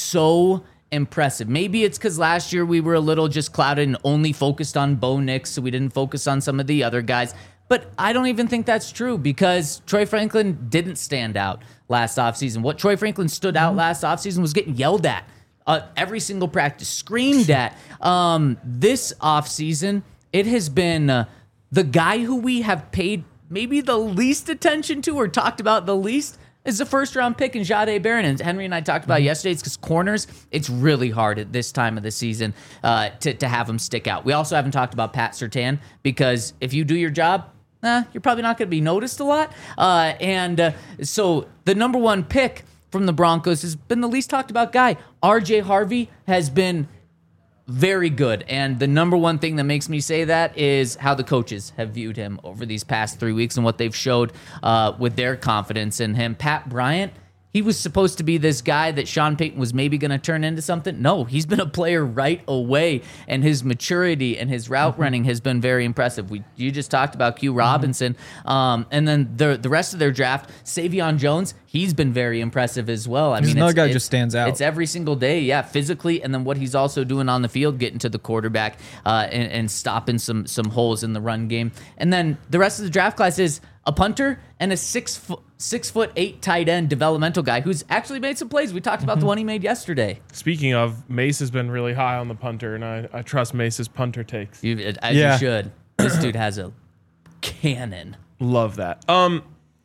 so impressive. Maybe it's because last year we were a little just clouded and only focused on Bo Nix, so we didn't focus on some of the other guys. But I don't even think that's true because Troy Franklin didn't stand out last offseason. What Troy Franklin stood out last offseason was getting yelled at uh, every single practice, screamed at. Um, this offseason, it has been uh, the guy who we have paid maybe the least attention to or talked about the least is the first round pick in Jahdae Barron. And Henry and I talked about mm-hmm. yesterday. It's because corners, it's really hard at this time of the season uh, to, to have them stick out. We also haven't talked about Pat Surtain because if you do your job, Eh, you're probably not going to be noticed a lot. Uh, and uh, so the number one pick from the Broncos has been the least talked about guy. R J Harvey has been very good. And the number one thing that makes me say that is how the coaches have viewed him over these past three weeks and what they've showed uh, with their confidence in him. Pat Bryant, he was supposed to be this guy that Sean Payton was maybe going to turn into something. No, he's been a player right away, and his maturity and his route mm-hmm. running has been very impressive. We you just talked about Q Robinson, mm-hmm. um, and then the the rest of their draft, Savion Jones, he's been very impressive as well. I He's mean, another it's, guy it's, just stands out. It's every single day, yeah, physically, and then what he's also doing on the field, getting to the quarterback uh, and, and stopping some some holes in the run game. And then the rest of the draft class is a punter and a six foot six foot eight tight end developmental guy who's actually made some plays. We talked about mm-hmm. the one he made yesterday. Speaking of, Mace has been really high on the punter, and I, I trust Mace's punter takes. You, as yeah. you should. This dude has a cannon. Love that. Um,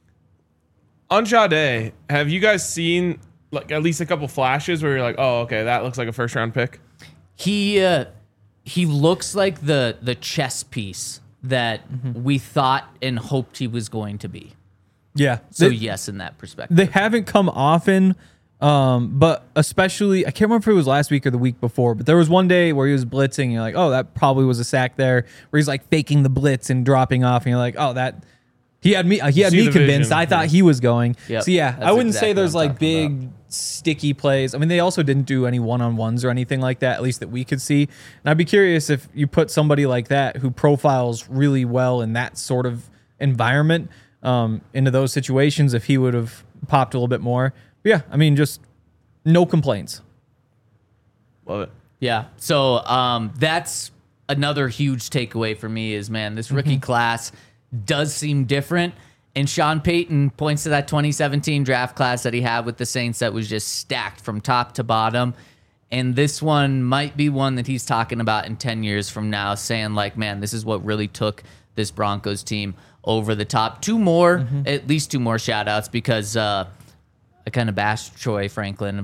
on Jahdae, have you guys seen like at least a couple flashes where you're like, oh, okay, that looks like a first round pick? He uh, he looks like the the chess piece that mm-hmm. we thought and hoped he was going to be. Yeah. So they, yes, in that perspective. They haven't come often, um, but especially, I can't remember if it was last week or the week before, but there was one day where he was blitzing, and you're like, oh, that probably was a sack there, where he's like faking the blitz and dropping off, and you're like, oh, that, he had me, he had me convinced. Vision. I thought yeah. he was going. Yep. So yeah, That's I wouldn't exactly say there's what I'm like big about. sticky plays. I mean, they also didn't do any one-on-ones or anything like that, at least that we could see. And I'd be curious if you put somebody like that who profiles really well in that sort of environment um, into those situations, if he would have popped a little bit more. But yeah, I mean, just no complaints. Love it. Yeah. So um, that's another huge takeaway for me is, man, this rookie mm-hmm. class does seem different. And Sean Payton points to that twenty seventeen draft class that he had with the Saints that was just stacked from top to bottom. And this one might be one that he's talking about in ten years from now, saying like, man, this is what really took this Broncos team over the top. Two more, mm-hmm. at least two more shout outs because uh, I kind of bashed Troy Franklin about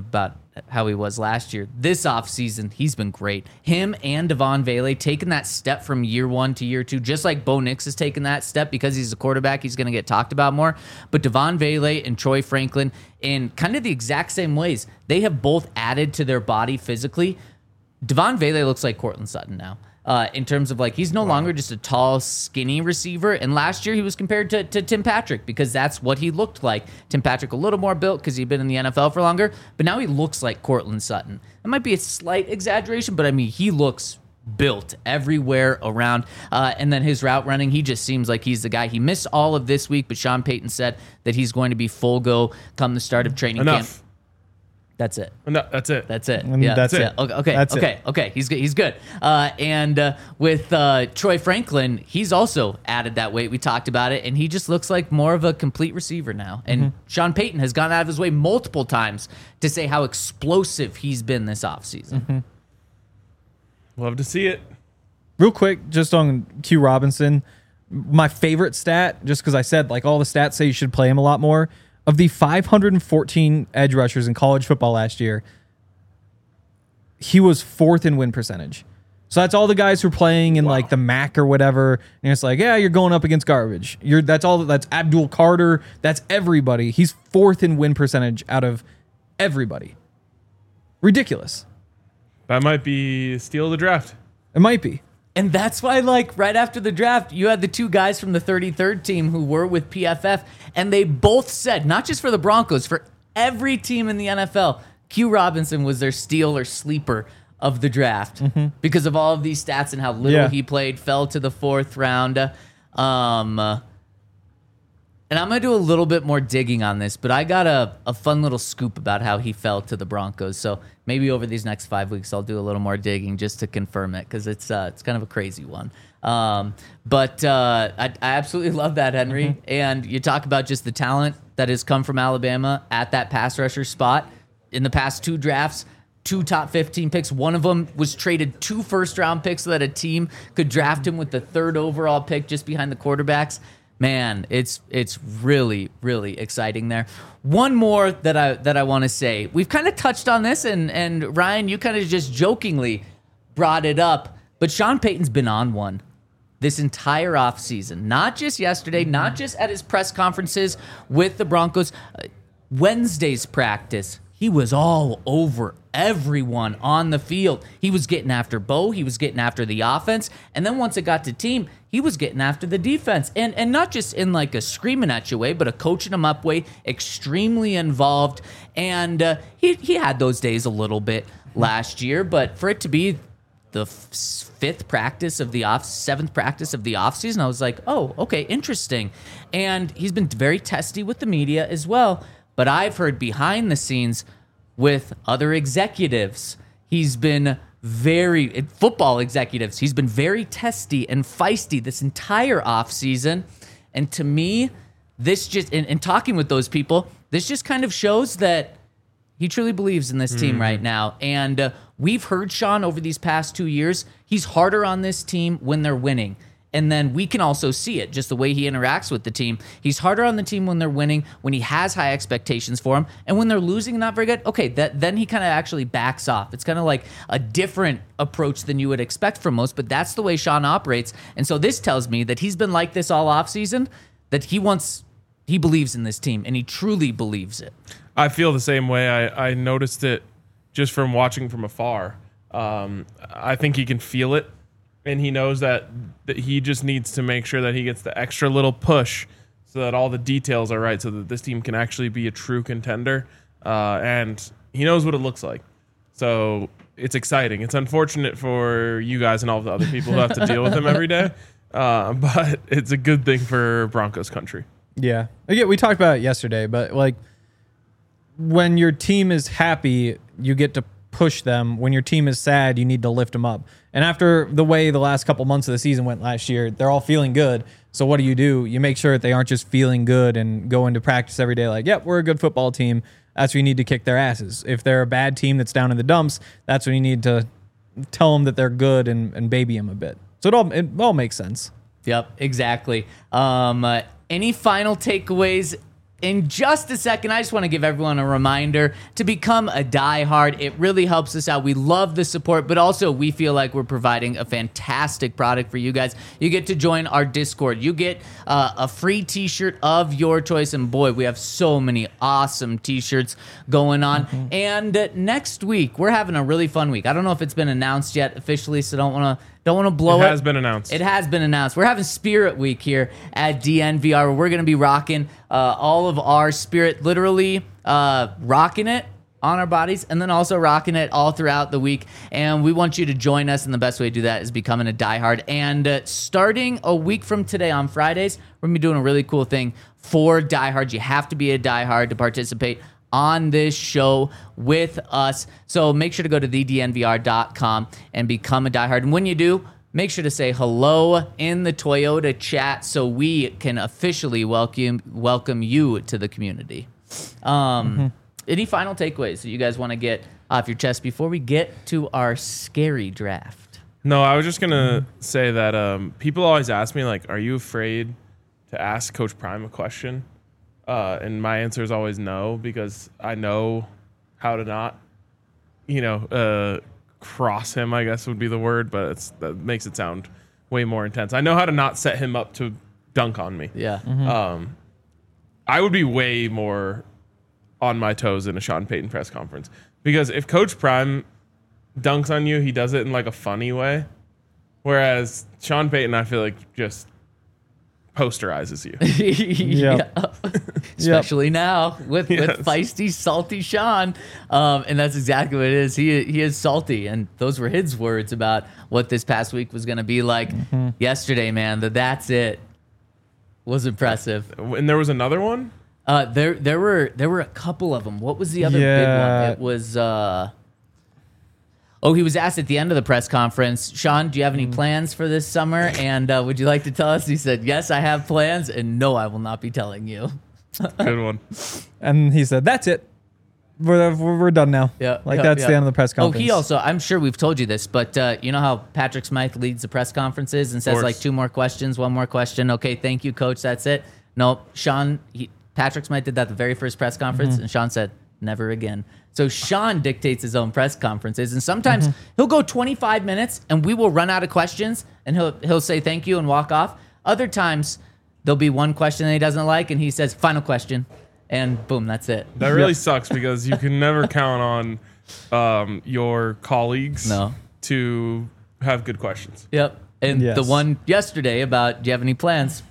how he was last year. This offseason, he's been great. Him and Devon Vele taking that step from year one to year two, just like Bo Nix has taken that step because he's a quarterback, he's going to get talked about more. But Devon Vele and Troy Franklin, in kind of the exact same ways, they have both added to their body physically. Devon Vele looks like Courtland Sutton now. Uh, in terms of like, he's no wow. longer just a tall, skinny receiver. And last year he was compared to, to Tim Patrick because that's what he looked like. Tim Patrick a little more built because he'd been in the N F L for longer, but now he looks like Courtland Sutton. It might be a slight exaggeration, but I mean, he looks built everywhere around. Uh, and then his route running, he just seems like he's the guy. He missed all of this week, but Sean Payton said that he's going to be full go come the start of training Enough. camp. That's it. No, that's it. That's it. And Yeah, that's it. it. Okay, okay, That's okay, it. okay. He's good. He's good. Uh, and uh, with uh, Troy Franklin, he's also added that weight. We talked about it, and he just looks like more of a complete receiver now. And Mm-hmm. Sean Payton has gone out of his way multiple times to say how explosive he's been this offseason. Mm-hmm. Love to see it. Real quick, just on Q Robinson, my favorite stat, just because I said like all the stats say you should play him a lot more. Of the five hundred fourteen edge rushers in college football last year, he was fourth in win percentage. So that's all the guys who are playing in wow. like the M A C or whatever. And it's like, yeah, you're going up against garbage. You're that's all. That's Abdul Carter. That's everybody. He's fourth in win percentage out of everybody. Ridiculous. That might be steal of the draft. It might be. And that's why, like, right after the draft, you had the two guys from the thirty-third team who were with P F F, and they both said, not just for the Broncos, for every team in the N F L, Q Robinson was their steal or sleeper of the draft mm-hmm. because of all of these stats and how little yeah. he played, fell to the fourth round. Um, and I'm going to do a little bit more digging on this, but I got a, a fun little scoop about how he fell to the Broncos. So maybe over these next five weeks, I'll do a little more digging just to confirm it because it's uh, it's kind of a crazy one. Um, but uh, I, I absolutely love that, Henry. Mm-hmm. And you talk about just the talent that has come from Alabama at that pass rusher spot in the past two drafts. Two top fifteen picks. One of them was traded two first-round picks so that a team could draft him with the third overall pick just behind the quarterbacks. Man, it's it's really, really exciting there. One more that I that I want to say. We've kind of touched on this, and, and Ryan, you kind of just jokingly brought it up, but Sean Payton's been on one this entire offseason. Not just yesterday, not just at his press conferences with the Broncos. Uh, Wednesday's practice, he was all over everyone on the field. He was getting after Bo. He was getting after the offense. And then once it got to team, he was getting after the defense. And and not just in like a screaming at you way, but a coaching them up way, extremely involved. And uh, he, he had those days a little bit last year. But for it to be the f- fifth practice of the off, seventh practice of the offseason, I was like, oh, okay, interesting. And he's been very testy with the media as well. But I've heard behind the scenes with other executives, he's been very, football executives, he's been very testy and feisty this entire offseason. And to me, this just, in, in talking with those people, this just kind of shows that he truly believes in this team mm. right now. And uh, we've heard Sean over these past two years, he's harder on this team when they're winning. And then we can also see it, just the way he interacts with the team. He's harder on the team when they're winning, when he has high expectations for them. And when they're losing and not very good, okay, that, then he kind of actually backs off. It's kind of like a different approach than you would expect from most, but that's the way Sean operates. And so this tells me that he's been like this all offseason, that he wants, he believes in this team, and he truly believes it. I feel the same way. I, I noticed it just from watching from afar. Um, I think he can feel it. And he knows that, that he just needs to make sure that he gets the extra little push so that all the details are right so that this team can actually be a true contender. Uh, and he knows what it looks like. So it's exciting. It's unfortunate for you guys and all the other people who have to deal with him every day. Uh, but it's a good thing for Broncos country. Yeah. Again, we talked about it yesterday, but like when your team is happy, you get to push them. When your team is sad, you need to lift them up. And after the way the last couple months of the season went last year, they're all feeling good. So what do you do? You make sure that they aren't just feeling good and go into practice every day like, yep, we're a good football team. That's when you need to kick their asses. If they're a bad team that's down in the dumps, that's when you need to tell them that they're good and, and baby them a bit. So it all, it all makes sense. Yep, exactly. Um, uh, any final takeaways in just a second, I just want to give everyone a reminder to become a diehard. It really helps us out. We love the support, but also we feel like we're providing a fantastic product for you guys. You get to join our Discord. You get uh, a free t-shirt of your choice. And boy, we have so many awesome t-shirts going on. Mm-hmm. And uh, next week, we're having a really fun week. I don't know if it's been announced yet officially, so don't want to Don't want to blow it. It has been announced. It has been announced. We're having Spirit Week here at D N V R, where we're going to be rocking uh, all of our Spirit, literally uh, rocking it on our bodies, and then also rocking it all throughout the week. And we want you to join us, and the best way to do that is becoming a diehard. And uh, starting a week from today on Fridays, we're going to be doing a really cool thing for diehards. You have to be a diehard to participate on this show with us. So make sure to go to the d n v r dot com and become a diehard. And when you do, make sure to say hello in the Toyota chat so we can officially welcome welcome you to the community. Um, mm-hmm. Any final takeaways that you guys want to get off your chest before we get to our scary draft? No, I was just going to mm-hmm. say that um, people always ask me, like, are you afraid to ask Coach Prime a question? Uh, and my answer is always no, because I know how to not, you know, uh, cross him, I guess would be the word, but it's, that makes it sound way more intense. I know how to not set him up to dunk on me. Yeah. Mm-hmm. Um, I would be way more on my toes in a Sean Payton press conference, because if Coach Prime dunks on you, he does it in like a funny way. Whereas Sean Payton, I feel like just posterizes you. Yep. Yeah. Especially yep. now with, yes. with feisty, salty Sean. Um, and that's exactly what it is. He he is salty. And those were his words about what this past week was going to be like. Mm-hmm. Yesterday, man, the that's it was impressive. And there was another one? Uh, there there were there were a couple of them. What was the other yeah. big one? It was... Uh, Oh, he was asked at the end of the press conference, Sean, do you have any plans for this summer? And uh, would you like to tell us? He said, yes, I have plans. And no, I will not be telling you. Good one. And he said, that's it. We're, we're, we're done now. Yeah, Like yeah, that's yeah. the end of the press Oh, conference. he also, I'm sure we've told you this, but uh, you know how Patrick Smythe leads the press conferences and says course. like two more questions, one more question. Okay, thank you, coach. That's it. No, Sean, he, Patrick Smythe did that the very first press conference. Mm-hmm. And Sean said, never again. So Sean dictates his own press conferences, and sometimes mm-hmm. he'll go twenty-five minutes and we will run out of questions and he'll he'll say thank you and walk off. Other times there'll be one question that he doesn't like and he says final question, and boom, that's it. That really sucks, because you can never count on um, your colleagues No. to have good questions. Yep. And Yes. the one yesterday about do you have any plans?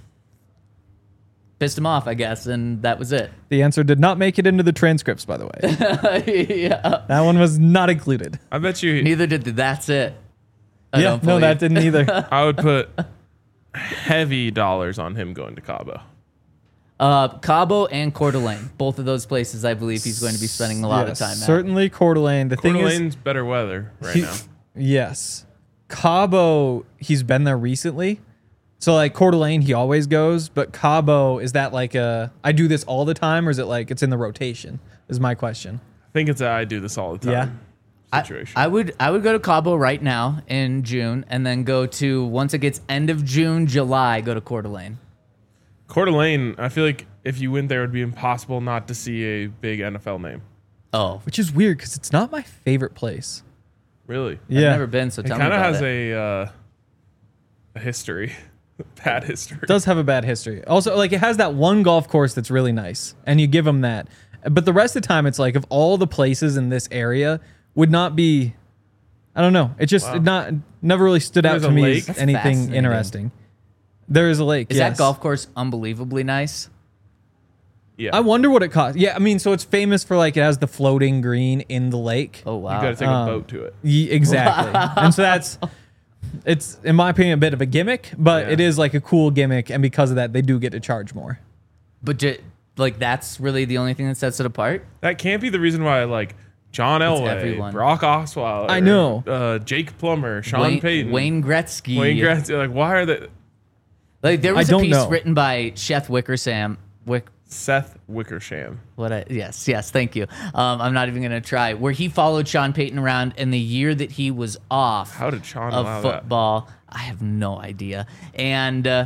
Pissed him off, I guess, and that was it. The answer did not make it into the transcripts, by the way. Yeah. That one was not included. I bet you Neither did the that's it. I yeah, don't no, believe. that didn't either. I would put heavy dollars on him going to Cabo. Uh, Cabo and Coeur d'Alene, both of those places, I believe he's going to be spending a lot Yes, of time at. certainly Coeur d'Alene. The Coeur thing is, d'Alene's better weather right he- now. yes, Cabo, he's been there recently. So like Coeur d'Alene, he always goes, but Cabo, is that like a, I do this all the time, or is it like it's in the rotation? Is my question. I think it's a I do this all the time Yeah. situation. I, I would I would go to Cabo right now in June, and then go to, once it gets end of June, July, go to Coeur d'Alene. Coeur d'Alene, I feel like if you went there, it would be impossible not to see a big N F L name. Oh, Which is weird because it's not my favorite place. Really? Yeah. I've never been, so It tell me kind of about has it. a uh, a history, bad history. It does have a bad history. Also, like it has that one golf course that's really nice, and you give them that. But the rest of the time, it's like of all the places in this area would not be. I don't know. It just Wow. it not never really stood There's out a to me lake? as That's anything fascinating. interesting. There is a lake. Is yes. that golf course unbelievably nice? Yeah, I wonder what it costs. Yeah, I mean, so it's famous for like it has the floating green in the lake. Oh, you wow. got to take Um, a boat to it. Ye- exactly. And so that's it's in my opinion a bit of a gimmick, but Yeah. it is like a cool gimmick, and because of that, they do get to charge more. But ju- like that's really the only thing that sets it apart? That can't be the reason why, like, John Elway, everyone. Brock Osweiler, I know. uh, Jake Plummer, Sean Wayne, Payton, Wayne Gretzky. Wayne Gretzky. Like, why are they? Like there I was a don't piece know. written by Seth Wickersham. Wick, Seth Wickersham. what? I, yes, yes. Thank you. Um, I'm not even gonna try. Where he followed Sean Payton around in the year that he was off How did Sean of allow that? football. I have no idea. And uh,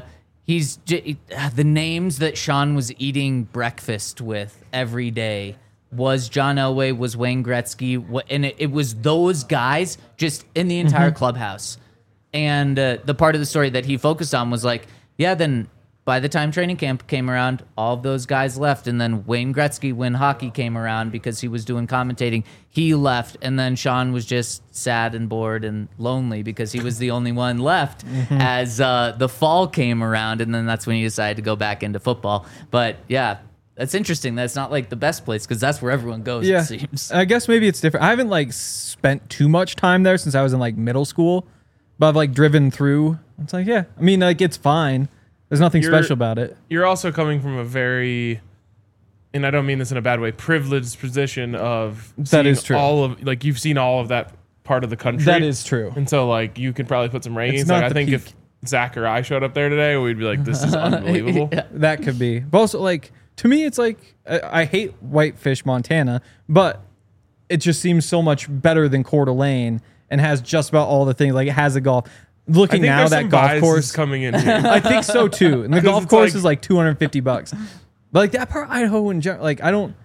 he's j- the names that Sean was eating breakfast with every day was John Elway, was Wayne Gretzky, wh- and it, it was those guys just in the entire Mm-hmm. clubhouse. And uh, the part of the story that he focused on was like, yeah, then by the time training camp came around, all of those guys left. And then Wayne Gretzky, when hockey came around, because he was doing commentating, he left. And then Sean was just sad and bored and lonely because he was the only one left Mm-hmm. as uh, the fall came around. And then that's when he decided to go back into football. But yeah, that's interesting. That's not like the best place because that's where everyone goes, Yeah, it seems. I guess maybe it's different. I haven't like spent too much time there since I was in like middle school, but I've like driven through. It's like, yeah, I mean, like it's fine. There's nothing You're- special about it. You're also coming from a very, and I don't mean this in a bad way, privileged position of That seeing is true. all of like you've seen all of that part of the country. That is true. And so like you could probably put some rankings. It's not Like I the think peak. if Zach or I showed up there today, we'd be like, this is unbelievable. Yeah. That could be. But also, like, to me, it's like, I, I hate Whitefish, Montana, but it just seems so much better than Coeur d'Alene and has just about all the things. Like, it has a golf. I Looking think now, there's that some golf biases course. coming in here. I think so, too. And the 'Cause golf it's course like- is like two hundred fifty bucks. But, like, that part of Idaho in general, like, I don't.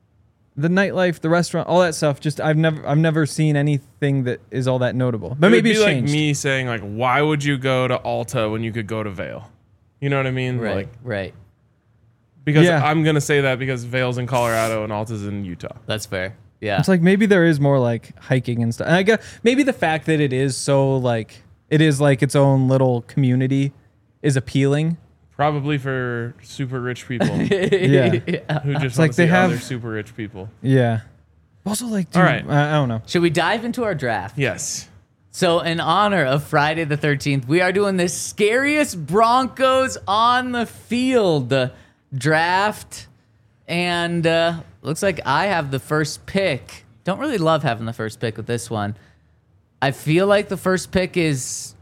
The nightlife, the restaurant, all that stuff. Just I've never, I've never seen anything that is all that notable. But It maybe would it's be like changed. me saying like, why would you go to Alta when you could go to Vail? You know what I mean? Right, Like right. because Yeah. I'm gonna say that because Vail's in Colorado and Alta's in Utah. That's fair. Yeah. It's like maybe there is more like hiking and stuff. And I guess maybe the fact that it is so like it is like its own little community is appealing. Probably for super rich people Yeah. who just want like to see they have- other super rich people. Yeah. Also, like, dude, All right. I, I don't know. Should we dive into our draft? Yes. So, in honor of Friday the thirteenth, we are doing the scariest Broncos on the field draft. And uh, looks like I have the first pick. Don't really love having the first pick with this one. I feel like the first pick is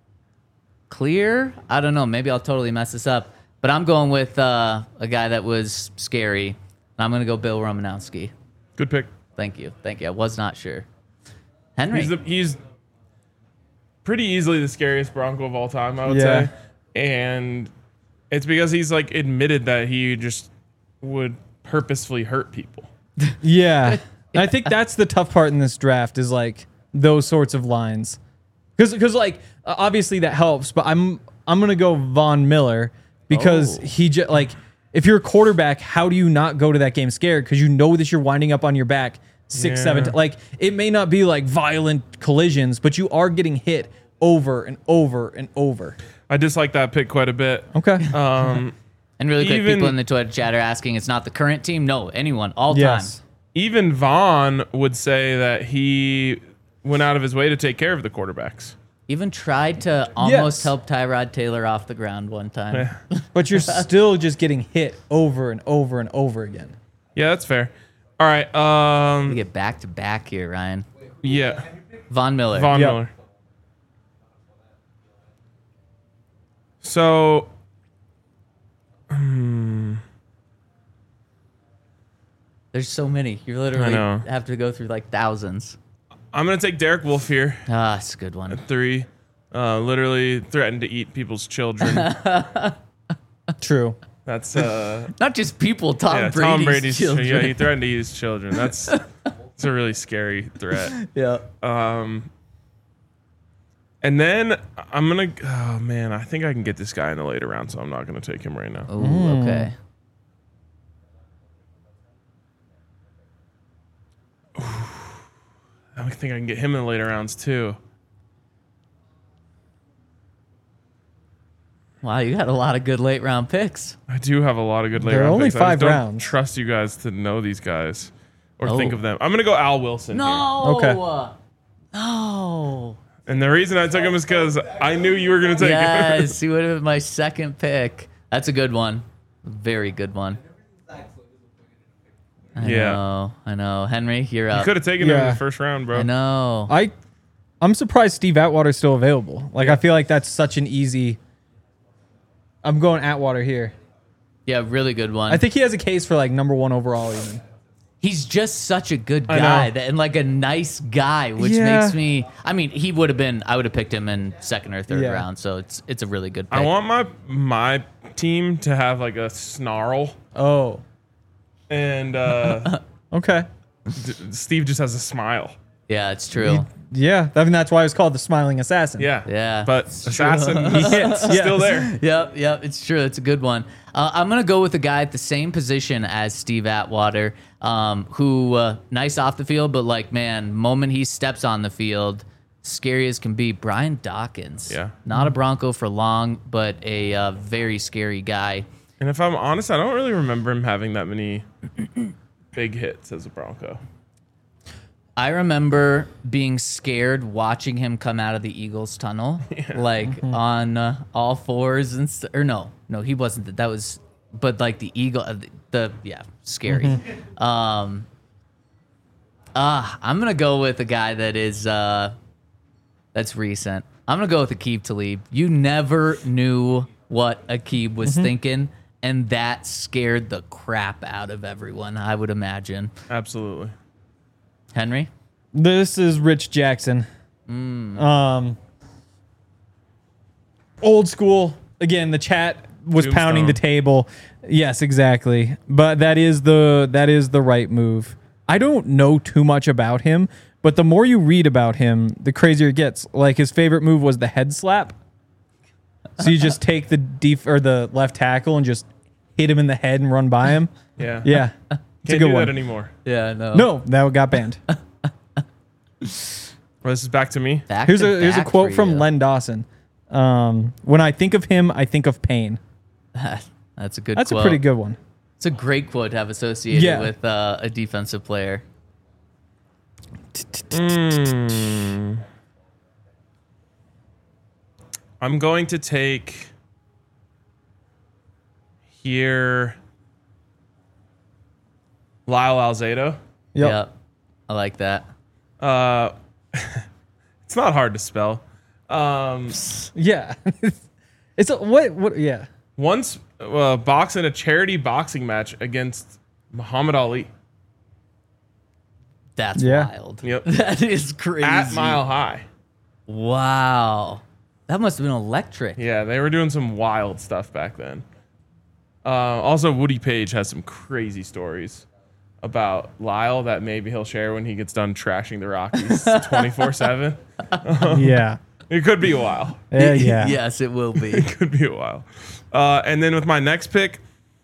clear. I don't know. Maybe I'll totally mess this up. But I'm going with uh, a guy that was scary. And I'm going to go Bill Romanowski. Good pick. Thank you. Thank you. I was not sure. Henry. He's the, he's pretty easily the scariest Bronco of all time, I would Yeah. say. And it's because he's like admitted that he just would purposefully hurt people. Yeah. And I think that's the tough part in this draft is like those sorts of lines. Because, because like, uh, obviously that helps, but I'm I'm going to go Von Miller because Oh. he just, like, if you're a quarterback, how do you not go to that game scared? Because you know that you're winding up on your back six, Yeah. seven. T- like, it may not be like violent collisions, but you are getting hit over and over and over. I dislike that pick quite a bit. Okay. Um, And really quick, Even- people in the Twitter chat are asking, it's not the current team? No, anyone, all yes. time. even Vaughn would say that he went out of his way to take care of the quarterbacks. Even tried to almost Yes. help Tyrod Taylor off the ground one time. But you're still just getting hit over and over and over again. Yeah, that's fair. All right. We Um, get back to back here, Ryan. yeah, Von Miller. Von Yep. Miller. So, There's so many. You I literally know. have to go through like thousands. I'm gonna take Derek Wolf here. Ah, it's a good one. Three. Uh, literally threatened to eat people's children. True. That's uh, Not just people, Tom yeah, Brady's, Tom Brady's. children. Yeah, he threatened to eat his children. That's it's a really scary threat. yeah. Um, and then I'm gonna. Oh man, I think I can get this guy in the later round, so I'm not gonna take him right now. Ooh, okay. I think I can get him in the later rounds too. Wow, you got a lot of good late round picks. I do have a lot of good later There are round only picks. I just five don't rounds. Trust you guys to know these guys or Oh. think of them. I'm gonna go Al Wilson here. No. Okay. No. And the reason I took him is because I knew you were gonna take him. Yes, he would have been my second pick. That's a good one. Very good one. I Yeah. know. I know. Henry, you're You up. could have taken him in Yeah. the first round, bro. I know. I, I'm surprised Steve Atwater's still available. Like, I feel like that's such an easy. I'm going Atwater here. Yeah, really good one. I think he has a case for like number one overall even. he's just such a good I guy know. that, and like a nice guy, which Yeah. makes me. I mean, he would have been. I would have picked him in second or third Yeah. round. So it's it's a really good pick. I want my my team to have like a snarl, Oh, and uh, okay. D- Steve just has a smile. yeah, it's true. Yeah, I mean that's why it's called the Smiling Assassin. Yeah, Yeah, But it's true. assassin, He hits. still yes. there. Yep, yep, it's true. It's a good one. Uh, I'm gonna go with a guy at the same position as Steve Atwater, um, who uh, nice off the field, but like man, moment he steps on the field, scary as can be. Brian Dawkins. Yeah. not a Bronco for long, but a uh, very scary guy. And if I'm honest, I don't really remember him having that many big hits as a Bronco. I remember being scared watching him come out of the Eagles tunnel, like on uh, all fours and st- or no, no, he wasn't. That, that was, but like the Eagle, uh, the, the yeah, scary. Um, ah, I'm gonna go with a guy that is uh, that's recent. I'm gonna go with Aqib Talib. You never knew what Aqib was thinking, and that scared the crap out of everyone. I would imagine. Absolutely. Henry. This is Rich Jackson. Um, old school. Again, the chat was pounding the Tombstone. table. Yes, exactly. But that is the that is the right move. I don't know too much about him, but the more you read about him, the crazier it gets. Like his favorite move was the head slap. So you just take the def- or the left tackle and just hit him in the head and run by him. Yeah. Yeah, it's a Can't good do one. that anymore. Yeah, no. No, that got banned. Well, this is back to me. Back Here's to a here's a back quote for from you. Len Dawson. Um, when I think of him, I think of pain. That's a good That's quote. a pretty good one. It's a great quote to have associated Yeah. with uh, a defensive player. Mm. I'm going to take here Lyle Alzado. Yep. Yep. I like that. Uh, it's not hard to spell. Um, Yeah. It's a, what what yeah. once uh, boxing a charity boxing match against Muhammad Ali That's Yeah. wild. Yep. That is crazy. at Mile High. Wow. That must have been electric. Yeah, they were doing some wild stuff back then. Uh, also, Woody Page has some crazy stories about Lyle that maybe he'll share when he gets done trashing the Rockies twenty-four seven. Yeah. It could be a while. Yeah, yeah. Yes, it will be. It could be a while. Uh, and then with my next pick,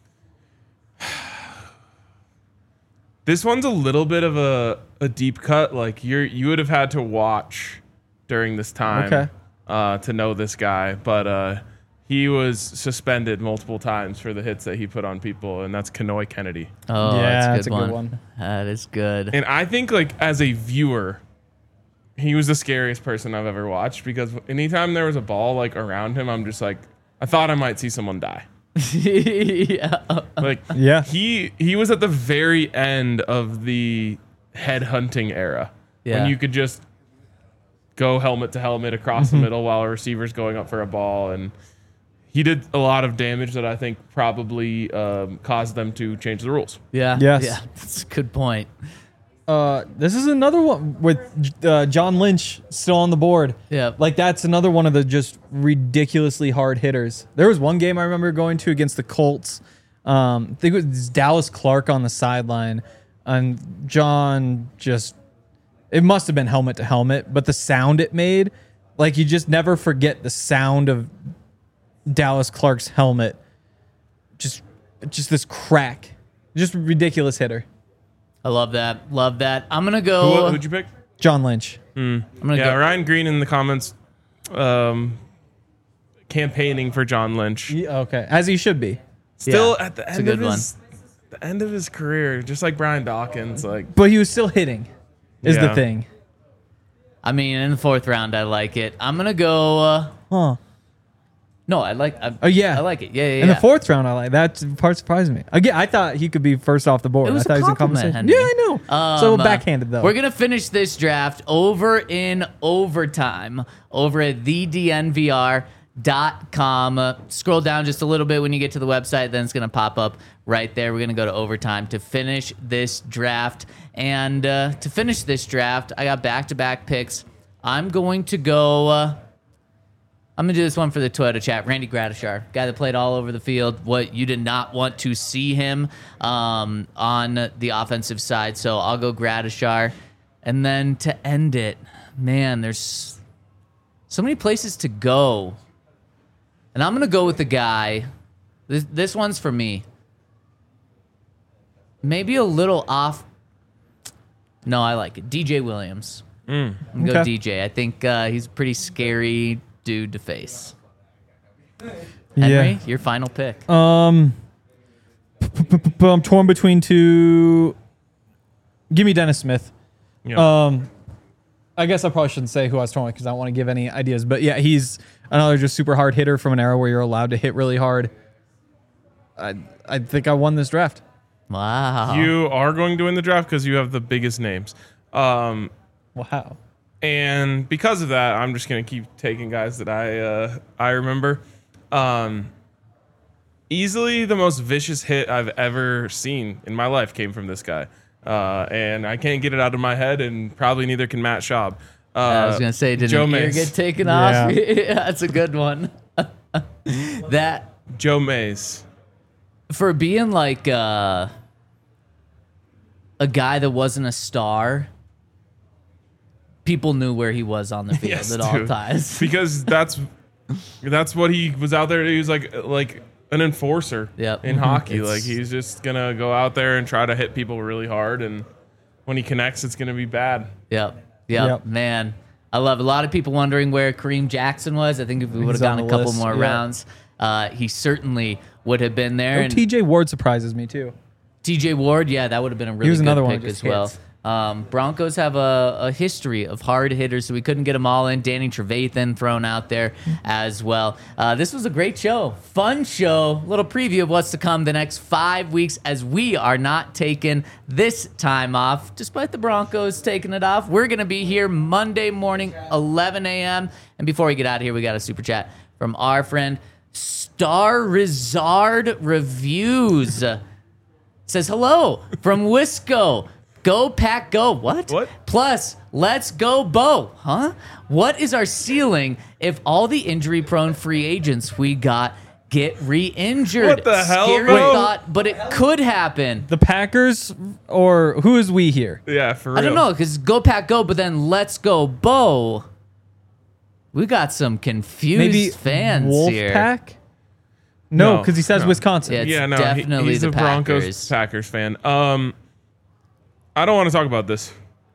this one's a little bit of a, a deep cut. Like you're you would have had to watch during this time Okay. uh, to know this guy, but uh, he was suspended multiple times for the hits that he put on people, and that's Kanoy Kennedy. Oh, Yeah, that's that's a a good, good one. one. That is good. And I think like as a viewer, he was the scariest person I've ever watched because anytime there was a ball like around him, I'm just like, I thought I might see someone die. yeah. Like Yeah. he he was at the very end of the head hunting era Yeah. when you could just go helmet to helmet across the middle while a receiver's going up for a ball, and he did a lot of damage that I think probably um, caused them to change the rules. Yeah. Yes. Yeah. That's a good point. Uh, this is another one with uh, John Lynch still on the board. Yeah. Like that's another one of the just ridiculously hard hitters. There was one game I remember going to against the Colts. Um, I think it was Dallas Clark on the sideline, and John just it must have been helmet to helmet, but the sound it made, like you just never forget the sound of Dallas Clark's helmet. Just just this crack. Just ridiculous hitter. I love that. Love that. I'm gonna Who, go. who'd you pick? John Lynch. I'm gonna Yeah, go. Ryan Green in the comments um, campaigning for John Lynch. Yeah, okay, as he should be. Still Yeah, at the it's a end good of his the end of his career, just like Brian Dawkins. Like But he was still hitting, is the Yeah. thing. I mean, in the fourth round, I like it. I'm gonna go. Uh, Huh. no, I like. I, Oh, yeah. I like it. Yeah, yeah. In yeah. the fourth round, I like that part. Surprised me. Again, I thought he could be first off the board. It was I thought a he was in compliment, conversation. Henry. Yeah, I know. Um, so uh, backhanded though. We're gonna finish this draft over in overtime over at the D N V R. dot com. Uh, scroll down just a little bit when you get to the website, then it's going to pop up right there. We're going to go to overtime to finish this draft. And uh, to finish this draft, I got back-to-back picks. I'm going to go... Uh, I'm going to do this one for the Toyota chat. Randy Gradishar, guy that played all over the field. What you did not want to see him um, on the offensive side. So I'll go Gradishar. And then to end it, man, there's so many places to go. And I'm going to go with the guy. This, this one's for me. Maybe a little off. No, I like it. D J Williams. Mm. I'm going to go Okay. D J. I think uh, he's a pretty scary dude to face. Yeah. Henry, your final pick. Um, I'm torn between two. Give me Dennis Smith. Yeah. Um, I guess I probably shouldn't say who I was torn with because I don't want to give any ideas. But yeah, he's another just super hard hitter from an era where you're allowed to hit really hard. I I think I won this draft. Wow. You are going to win the draft because you have the biggest names. Um, Wow. and because of that, I'm just going to keep taking guys that I uh, I remember. Um, easily the most vicious hit I've ever seen in my life came from this guy. Uh, and I can't get it out of my head, and probably neither can Matt Schaub. Uh, I was gonna say, did Joe an ear Mays. get taken Yeah. off? Yeah, that's a good one. That Joe Mays. for being like uh, a guy that wasn't a star, people knew where he was on the field Yes, at all dude. times. Because that's that's what he was out there. He was like like an enforcer Yep. in hockey. It's- Like he's just gonna go out there and try to hit people really hard, and when he connects, it's gonna be bad. Yep. Yep. Yep. Man, I love it. A lot of people wondering where Kareem Jackson was. I think if we would have He's on gone a the couple list, more yeah. rounds, uh, he certainly would have been there. Oh, And T J Ward surprises me too. T J Ward, yeah, that would have been a really was good another one pick who just as well. hits. Um, Broncos have a, a history of hard hitters, so we couldn't get them all in. Danny Trevathan thrown out there as well. Uh, this was a great show, fun show. Little preview of what's to come the next five weeks as we are not taking this time off, despite the Broncos taking it off. We're going to be here Monday morning, eleven a.m. And before we get out of here, we got a super chat from our friend Star Rizard Reviews. Says hello from Wisco. Go Pack Go. What? What? Plus, let's go Bo. Huh? What is our ceiling if all the injury prone free agents we got get re-injured? What the hell, Scary Bo? thought, but it could happen. The Packers or who is we here? Yeah, for real. I don't know, because Go Pack Go, but then let's go Bo. We got some confused Maybe fans here. Wolfpack? No, No, because he says no. Wisconsin. Yeah, it's Yeah, no, he- definitely he's the a Broncos Packers. Packers fan. Um, I don't want to talk about this.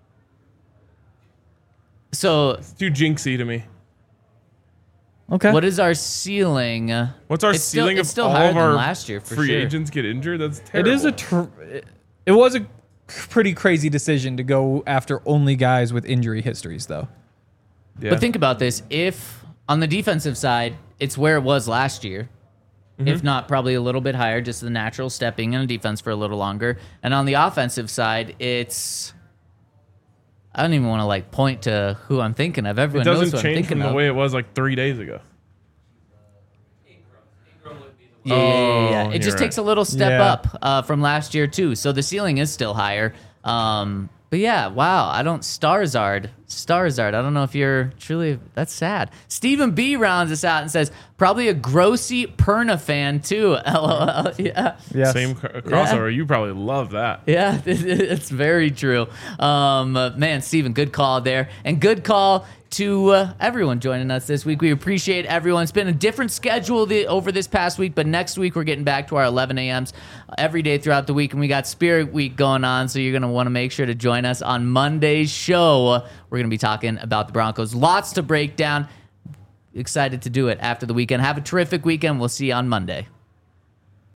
So, It's too jinxy to me. Okay. what is our ceiling? What's our It's still- ceiling it's if still all higher of than our last year, for free sure. agents get injured? That's It terrible. is a. Tr- it was a pretty crazy decision to go after only guys with injury histories, though. Yeah. But think about this. If on the defensive side, it's where it was last year, Mm-hmm. if not probably a little bit higher, just the natural stepping in a defense for a little longer. And on the offensive side, it's... I don't even want to like point to who I'm thinking of. it Everyone knows doesn't who I'm change thinking from the of. way it was like three days ago. Yeah, yeah, yeah, yeah. Oh, It you're just right. takes a little step Yeah. up uh, from last year too. So the ceiling is still higher. Um, but yeah, wow. I don't Starzard, Starzard. I don't know if you're truly. That's sad. Stephen B rounds us out and says probably a Grossi Perna fan too. LOL. Yeah. Yes. Same cr- crossover. You probably love that. Yeah, it's very true. Um, uh, man, Steven, good call there. And good call to uh, everyone joining us this week. We appreciate everyone. It's been a different schedule the, over this past week, but next week we're getting back to our eleven a.m.s every day throughout the week. And we got Spirit Week going on, so you're going to want to make sure to join us on Monday's show. We're going to be talking about the Broncos. Lots to break down. Excited to do it after the weekend. Have a terrific weekend. We'll see you on Monday.